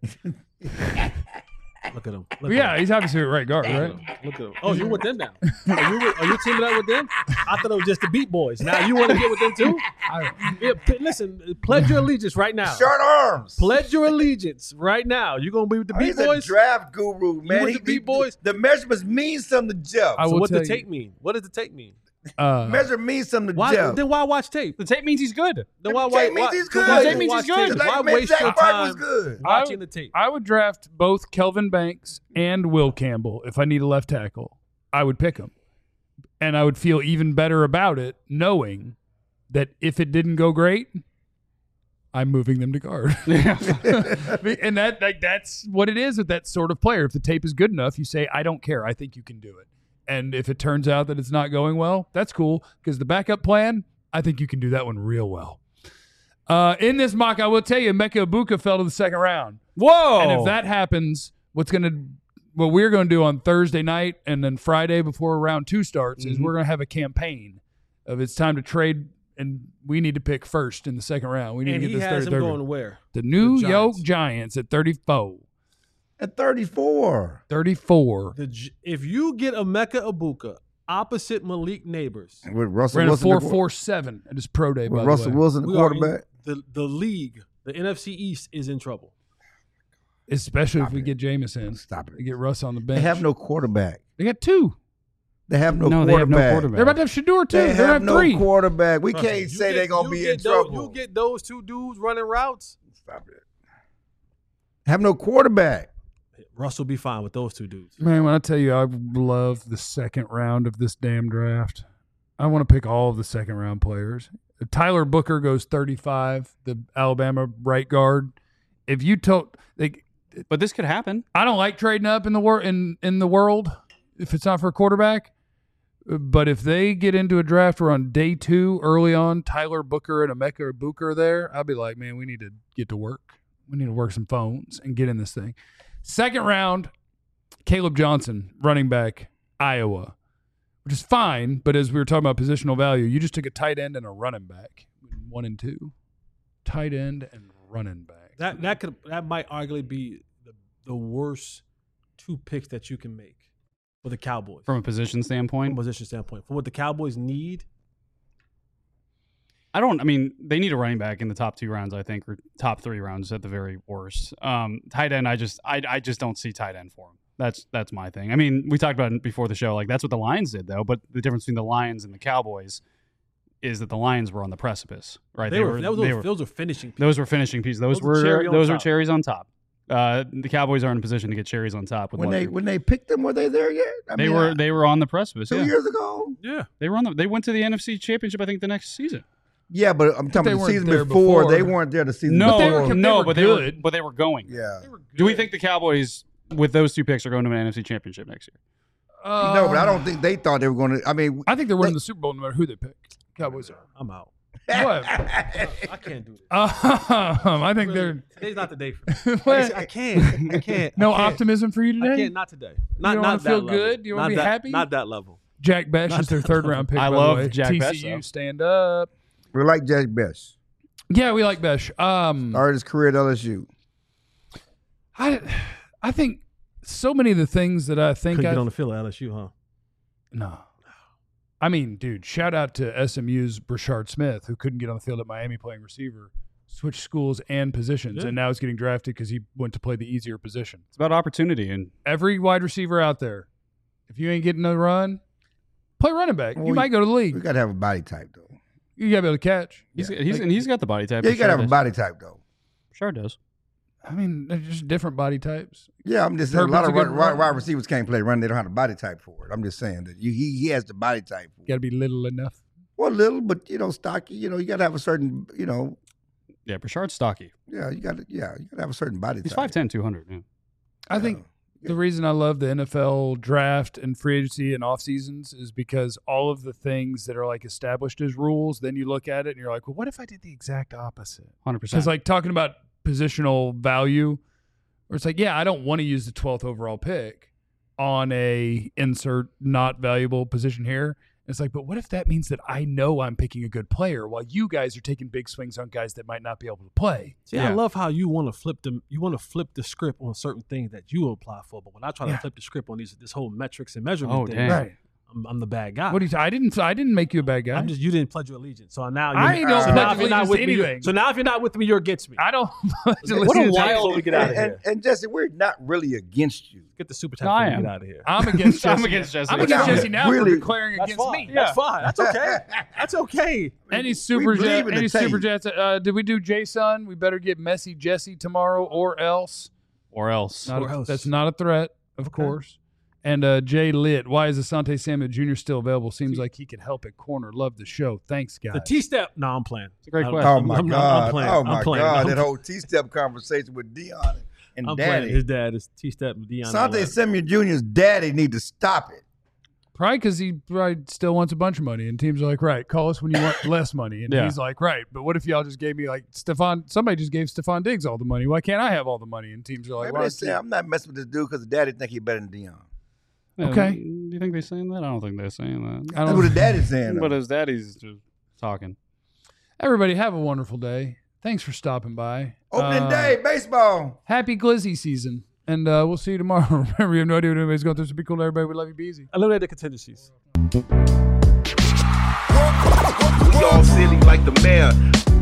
Speaker 3: Look at him. Look
Speaker 1: Yeah,
Speaker 3: at him.
Speaker 1: he's obviously a right guard,
Speaker 3: Look at
Speaker 1: right?
Speaker 3: him. Look at him. Oh, you with them now? Are you, with, are you teaming up with them? I thought it was just the Beat Boys. Now you want to get with them too? Yeah, p- listen, pledge your allegiance right now.
Speaker 2: Short arms.
Speaker 3: Pledge your allegiance right now. You gonna be with the Beat
Speaker 2: He's
Speaker 3: Boys?
Speaker 2: a draft guru, man.
Speaker 3: with
Speaker 2: He-
Speaker 3: the Beat
Speaker 2: he-
Speaker 3: Boys?
Speaker 2: The measurements mean something to Jeff.
Speaker 1: I
Speaker 3: So
Speaker 1: will
Speaker 3: what
Speaker 1: tell
Speaker 3: does
Speaker 1: you.
Speaker 3: the tape mean? What does the tape mean?
Speaker 1: Uh,
Speaker 2: Measure means something to
Speaker 3: Why
Speaker 2: Jeff.
Speaker 3: then why watch tape?
Speaker 4: The tape means he's good.
Speaker 3: Then why
Speaker 2: tape
Speaker 3: why,
Speaker 2: means
Speaker 3: why,
Speaker 2: he's
Speaker 3: then
Speaker 2: good.
Speaker 3: why
Speaker 2: The tape
Speaker 4: means
Speaker 3: watch
Speaker 4: he's good.
Speaker 3: tape?
Speaker 2: Like,
Speaker 3: Why
Speaker 2: man,
Speaker 3: waste
Speaker 2: Zach
Speaker 3: your
Speaker 2: Martin
Speaker 3: time
Speaker 2: was good.
Speaker 3: watching the tape?
Speaker 1: I would draft both Kelvin Banks and Will Campbell if I need a left tackle. I would pick them. And I would feel even better about it knowing that if it didn't go great, I'm moving them to guard. and that like that's what it is with that sort of player. If the tape is good enough, you say, I don't care. I think you can do it. And if it turns out that it's not going well, that's cool because the backup plan, I think you can do that one real well. Uh, in this mock, I will tell you, Emeka Ibuka fell to the second round.
Speaker 4: Whoa!
Speaker 1: And if that happens, what's going to what we're going to do on Thursday night and then Friday before round two starts
Speaker 3: Mm-hmm.
Speaker 1: is we're going to have a campaign of it's time to trade, and we need to pick first in the second round. We need
Speaker 3: And
Speaker 1: to
Speaker 3: he
Speaker 1: get this
Speaker 3: has
Speaker 1: third.
Speaker 3: him going where?
Speaker 1: The New
Speaker 3: The
Speaker 1: York
Speaker 3: Giants.
Speaker 1: Giants at thirty-four.
Speaker 2: At thirty-four.
Speaker 1: thirty-four.
Speaker 3: The, G- if you get Emeka Ibuka opposite Malik Neighbors,
Speaker 2: With Russell
Speaker 1: Ran a
Speaker 2: Wilson.
Speaker 1: four
Speaker 2: the-
Speaker 1: four seven at his pro day, by
Speaker 2: With
Speaker 1: the
Speaker 2: Russell
Speaker 1: way.
Speaker 2: Wilson, the
Speaker 3: we are in-
Speaker 2: quarterback.
Speaker 3: the the league, the N F C East is in trouble.
Speaker 1: Especially
Speaker 2: Stop
Speaker 1: if we
Speaker 2: it.
Speaker 1: get Jameson.
Speaker 2: Stop
Speaker 1: We
Speaker 2: it.
Speaker 1: get Russ on the bench.
Speaker 2: They have no quarterback.
Speaker 1: They got two.
Speaker 2: They have no,
Speaker 4: No, they have no
Speaker 2: quarterback.
Speaker 4: quarterback.
Speaker 1: They're about to have Shador too.
Speaker 2: They
Speaker 1: They're
Speaker 2: have
Speaker 1: have
Speaker 2: no
Speaker 1: three.
Speaker 2: quarterback. We
Speaker 3: Trust me,
Speaker 2: can't
Speaker 3: you
Speaker 2: say
Speaker 3: get-
Speaker 2: they're gonna
Speaker 3: you
Speaker 2: be
Speaker 3: get
Speaker 2: in
Speaker 3: those-
Speaker 2: trouble.
Speaker 3: You get those two dudes running routes.
Speaker 2: Stop it. Have no quarterback.
Speaker 3: Russ will be fine with those two dudes.
Speaker 1: Man, when I tell you I love the second round of this damn draft, I want to pick all of the second round players. Tyler Booker goes thirty-five, the Alabama right guard. If you told, like,
Speaker 4: But this could happen.
Speaker 1: I don't like trading up in the wor- in in the world if it's not for a quarterback. But if they get into a draft where on day two, early on, Tyler Booker and Emeka Ibuka are there, I'll be like, man, we need to get to work. We need to work some phones and get in this thing. Second round, Caleb Johnson, running back, Iowa, which is fine. But as we were talking about positional value, you just took a tight end and a running back, one and two, tight end and running back.
Speaker 3: That that could that might arguably be the, the worst two picks that you can make for the Cowboys
Speaker 4: From a position
Speaker 3: from
Speaker 4: standpoint,
Speaker 3: a position standpoint. For what the Cowboys need,
Speaker 4: I don't. I mean, they need a running back in the top two rounds, I think, or top three rounds at the very worst. Um, tight end, I just, I, I just don't see tight end for him. That's that's my thing. I mean, we talked about it before the show. Like that's what the Lions did, though. But the difference between the Lions and the Cowboys is that the Lions were on the precipice, right?
Speaker 3: they, were, those,
Speaker 4: they
Speaker 3: were
Speaker 4: were
Speaker 3: those were finishing. Pieces.
Speaker 4: those were finishing pieces. Those,
Speaker 3: Those were
Speaker 4: were
Speaker 3: cherry on
Speaker 4: those were
Speaker 3: top.
Speaker 4: cherries on top. Uh, the Cowboys are in a position to get cherries on top. With
Speaker 2: When
Speaker 4: what
Speaker 2: they
Speaker 4: they're-
Speaker 2: when they picked them, were they there yet? I
Speaker 4: they
Speaker 2: mean,
Speaker 4: were
Speaker 2: I-
Speaker 4: they were on the precipice.
Speaker 2: two
Speaker 4: Yeah.
Speaker 2: years ago.
Speaker 3: Yeah,
Speaker 4: They were on the. They went to the N F C Championship, I think, the next season.
Speaker 2: Yeah, but I'm
Speaker 1: they
Speaker 2: talking about the
Speaker 1: weren't
Speaker 2: season
Speaker 1: there
Speaker 2: before.
Speaker 1: before.
Speaker 2: They weren't there the season
Speaker 4: No,
Speaker 1: they were-
Speaker 2: before.
Speaker 1: they
Speaker 4: no,
Speaker 1: were
Speaker 4: but they were
Speaker 1: good.
Speaker 4: but they were going.
Speaker 2: Yeah.
Speaker 3: They were
Speaker 4: Do we
Speaker 3: good.
Speaker 4: think the Cowboys with those two picks are going to an N F C Championship next year?
Speaker 1: Uh,
Speaker 2: no, but I don't think they thought they were going to. I mean,
Speaker 1: I think they're winning the Super Bowl no matter who they pick. Cowboys are.
Speaker 3: I'm out.
Speaker 1: What?
Speaker 3: I can't do this.
Speaker 1: Um, I think
Speaker 3: Really,
Speaker 1: they're
Speaker 3: today's not the day for me.
Speaker 1: What?
Speaker 3: I can't. I can't.
Speaker 1: no
Speaker 3: I can't.
Speaker 1: optimism for you
Speaker 3: I
Speaker 1: today.
Speaker 3: can't. Not today. Not
Speaker 1: don't
Speaker 3: not
Speaker 1: wanna
Speaker 3: that
Speaker 1: feel
Speaker 3: level.
Speaker 1: good? You wanna
Speaker 3: Not
Speaker 1: be
Speaker 3: that-
Speaker 1: happy?
Speaker 3: Not that level.
Speaker 1: Jack Besh
Speaker 3: Not
Speaker 1: is their
Speaker 3: that
Speaker 1: third
Speaker 3: level.
Speaker 1: round pick.
Speaker 4: I
Speaker 1: by
Speaker 4: love
Speaker 1: the way.
Speaker 4: Jack
Speaker 1: T C U,
Speaker 4: Besh, though.
Speaker 1: stand up.
Speaker 2: we like Jack Besh.
Speaker 1: Yeah, we like Besh. Um,
Speaker 2: Started his career at L S U.
Speaker 1: I, I think so many of the things that I think
Speaker 3: Couldn't
Speaker 1: I
Speaker 3: get on the field at L S U, huh?
Speaker 1: no. I mean, dude, shout out to S M U's Brashard Smith, who couldn't get on the field at Miami playing receiver, switched schools and positions,
Speaker 3: Yeah.
Speaker 1: and now is getting drafted because he went to play the easier position.
Speaker 4: It's about opportunity, and
Speaker 1: Every wide receiver out there, if you ain't getting a run, play running back.
Speaker 2: Well,
Speaker 1: you might go to the
Speaker 2: We
Speaker 1: league.
Speaker 2: got to have a body type though.
Speaker 1: You got to be able to catch.
Speaker 4: he's
Speaker 2: Yeah.
Speaker 4: he's and he's got the body type.
Speaker 2: Yeah, you got to have a
Speaker 4: does.
Speaker 2: body type though.
Speaker 4: Sure does.
Speaker 1: I mean, there's just different body types.
Speaker 2: Yeah, I'm just saying a lot
Speaker 1: Herbert's
Speaker 2: of
Speaker 1: a good
Speaker 2: wide, wide,
Speaker 1: runner.
Speaker 2: wide receivers can't play run. They don't have the body type for it. I'm just saying that you, he he has the body type. For
Speaker 1: You
Speaker 2: it.
Speaker 1: got to be little enough.
Speaker 2: Well, little, but you know, stocky. You know, you got to have a certain. You know,
Speaker 4: Yeah, Brashard's stocky.
Speaker 2: yeah, you got to. Yeah, you got to have a certain body
Speaker 4: He's
Speaker 2: type.
Speaker 4: five ten, two hundred. Yeah.
Speaker 1: I think the reason I love the N F L draft and free agency and off seasons is because all of the things that are like established as rules, then you look at it and you're like, well, what if I did the exact opposite?
Speaker 4: one hundred
Speaker 1: Because
Speaker 4: percent.
Speaker 1: like talking about positional value, where it's like, yeah, I don't want to use the twelfth overall pick on a insert not valuable position here. It's like, but what if that means that I know I'm picking a good player while you guys are taking big swings on guys that might not be able to play?
Speaker 3: See, I
Speaker 4: Yeah.
Speaker 3: love how you want to flip them. You want to flip the script on certain things that you apply for. But when I try
Speaker 1: Yeah.
Speaker 3: to flip the script on these, this whole metrics and measurement
Speaker 4: Oh,
Speaker 3: thing,
Speaker 4: dang.
Speaker 1: Right.
Speaker 3: I'm, I'm the bad guy.
Speaker 1: What do you? I didn't. I didn't make you a bad guy.
Speaker 3: I'm just you didn't pledge your allegiance. So now you're,
Speaker 1: I don't
Speaker 3: so
Speaker 1: pledge
Speaker 3: now if you're not
Speaker 1: allegiance
Speaker 3: with
Speaker 1: to
Speaker 3: me, you're-
Speaker 1: anything.
Speaker 3: So now if you're not with me, you're against me.
Speaker 1: I don't.
Speaker 3: What a wild way to get out of
Speaker 2: and,
Speaker 3: here.
Speaker 2: and, and Jesse, we're not really against you.
Speaker 3: Get the super chat
Speaker 4: No, I
Speaker 3: and
Speaker 4: am.
Speaker 3: get out of here.
Speaker 1: I'm against Jesse.
Speaker 4: I'm against Jesse.
Speaker 1: I'm against
Speaker 2: Yeah.
Speaker 1: Jesse now
Speaker 2: Really?
Speaker 1: for declaring
Speaker 3: That's
Speaker 1: against
Speaker 3: fine.
Speaker 1: me.
Speaker 3: That's fine. That's okay. That's okay.
Speaker 1: Any
Speaker 2: We
Speaker 1: super
Speaker 2: believe
Speaker 1: jet,
Speaker 2: in the
Speaker 1: any
Speaker 2: tape.
Speaker 1: super jets? Uh, did we do Jason? We better get Messy Jesse tomorrow, or else.
Speaker 4: Or else.
Speaker 1: Not
Speaker 3: Or
Speaker 1: a-
Speaker 3: else.
Speaker 1: That's not a threat, of course. And uh, Jay Litt, why is Asante Samuel Junior still available? Seems like he could help at corner. Love the show. Thanks, guys.
Speaker 3: The T step. No, I'm playing.
Speaker 4: It's a great
Speaker 3: I'm-
Speaker 4: question.
Speaker 2: Oh
Speaker 3: I'm-
Speaker 2: my
Speaker 3: I'm- I'm
Speaker 2: God!
Speaker 3: playing.
Speaker 2: Oh
Speaker 3: I'm
Speaker 2: my
Speaker 3: playing.
Speaker 2: God!
Speaker 3: I'm-
Speaker 2: That whole T-step conversation with Dion and
Speaker 3: I'm playing.
Speaker 2: Daddy.
Speaker 3: His dad is T step. Deion.
Speaker 2: Asante Samuel Junior's daddy need to stop it.
Speaker 1: Probably because he probably still wants a bunch of money, and teams are like, right, call us when you want less money. And
Speaker 4: Yeah.
Speaker 1: he's like, right, but what if y'all just gave me like Stephon? Somebody just gave Stephon Diggs all the money. Why can't I have all the money? And teams are like,
Speaker 2: Maybe
Speaker 1: why
Speaker 2: they say I'm not messing with this dude because the daddy think he better than Deion.
Speaker 4: Yeah,
Speaker 1: Okay.
Speaker 4: Do you think they're saying that? I don't think they're saying that.
Speaker 1: I
Speaker 2: That's
Speaker 1: don't
Speaker 2: what the daddy's saying.
Speaker 4: But
Speaker 2: though.
Speaker 4: his daddy's just talking.
Speaker 1: Everybody have a wonderful day. Thanks for stopping by.
Speaker 2: Opening
Speaker 1: Uh,
Speaker 2: day, baseball.
Speaker 1: Happy Glizzy season. And uh, we'll see you tomorrow. Remember, you have no idea what anybody's going through, so be cool to everybody. We love you. Be easy.
Speaker 3: Eliminate the contingencies.
Speaker 7: We all silly like the mayor.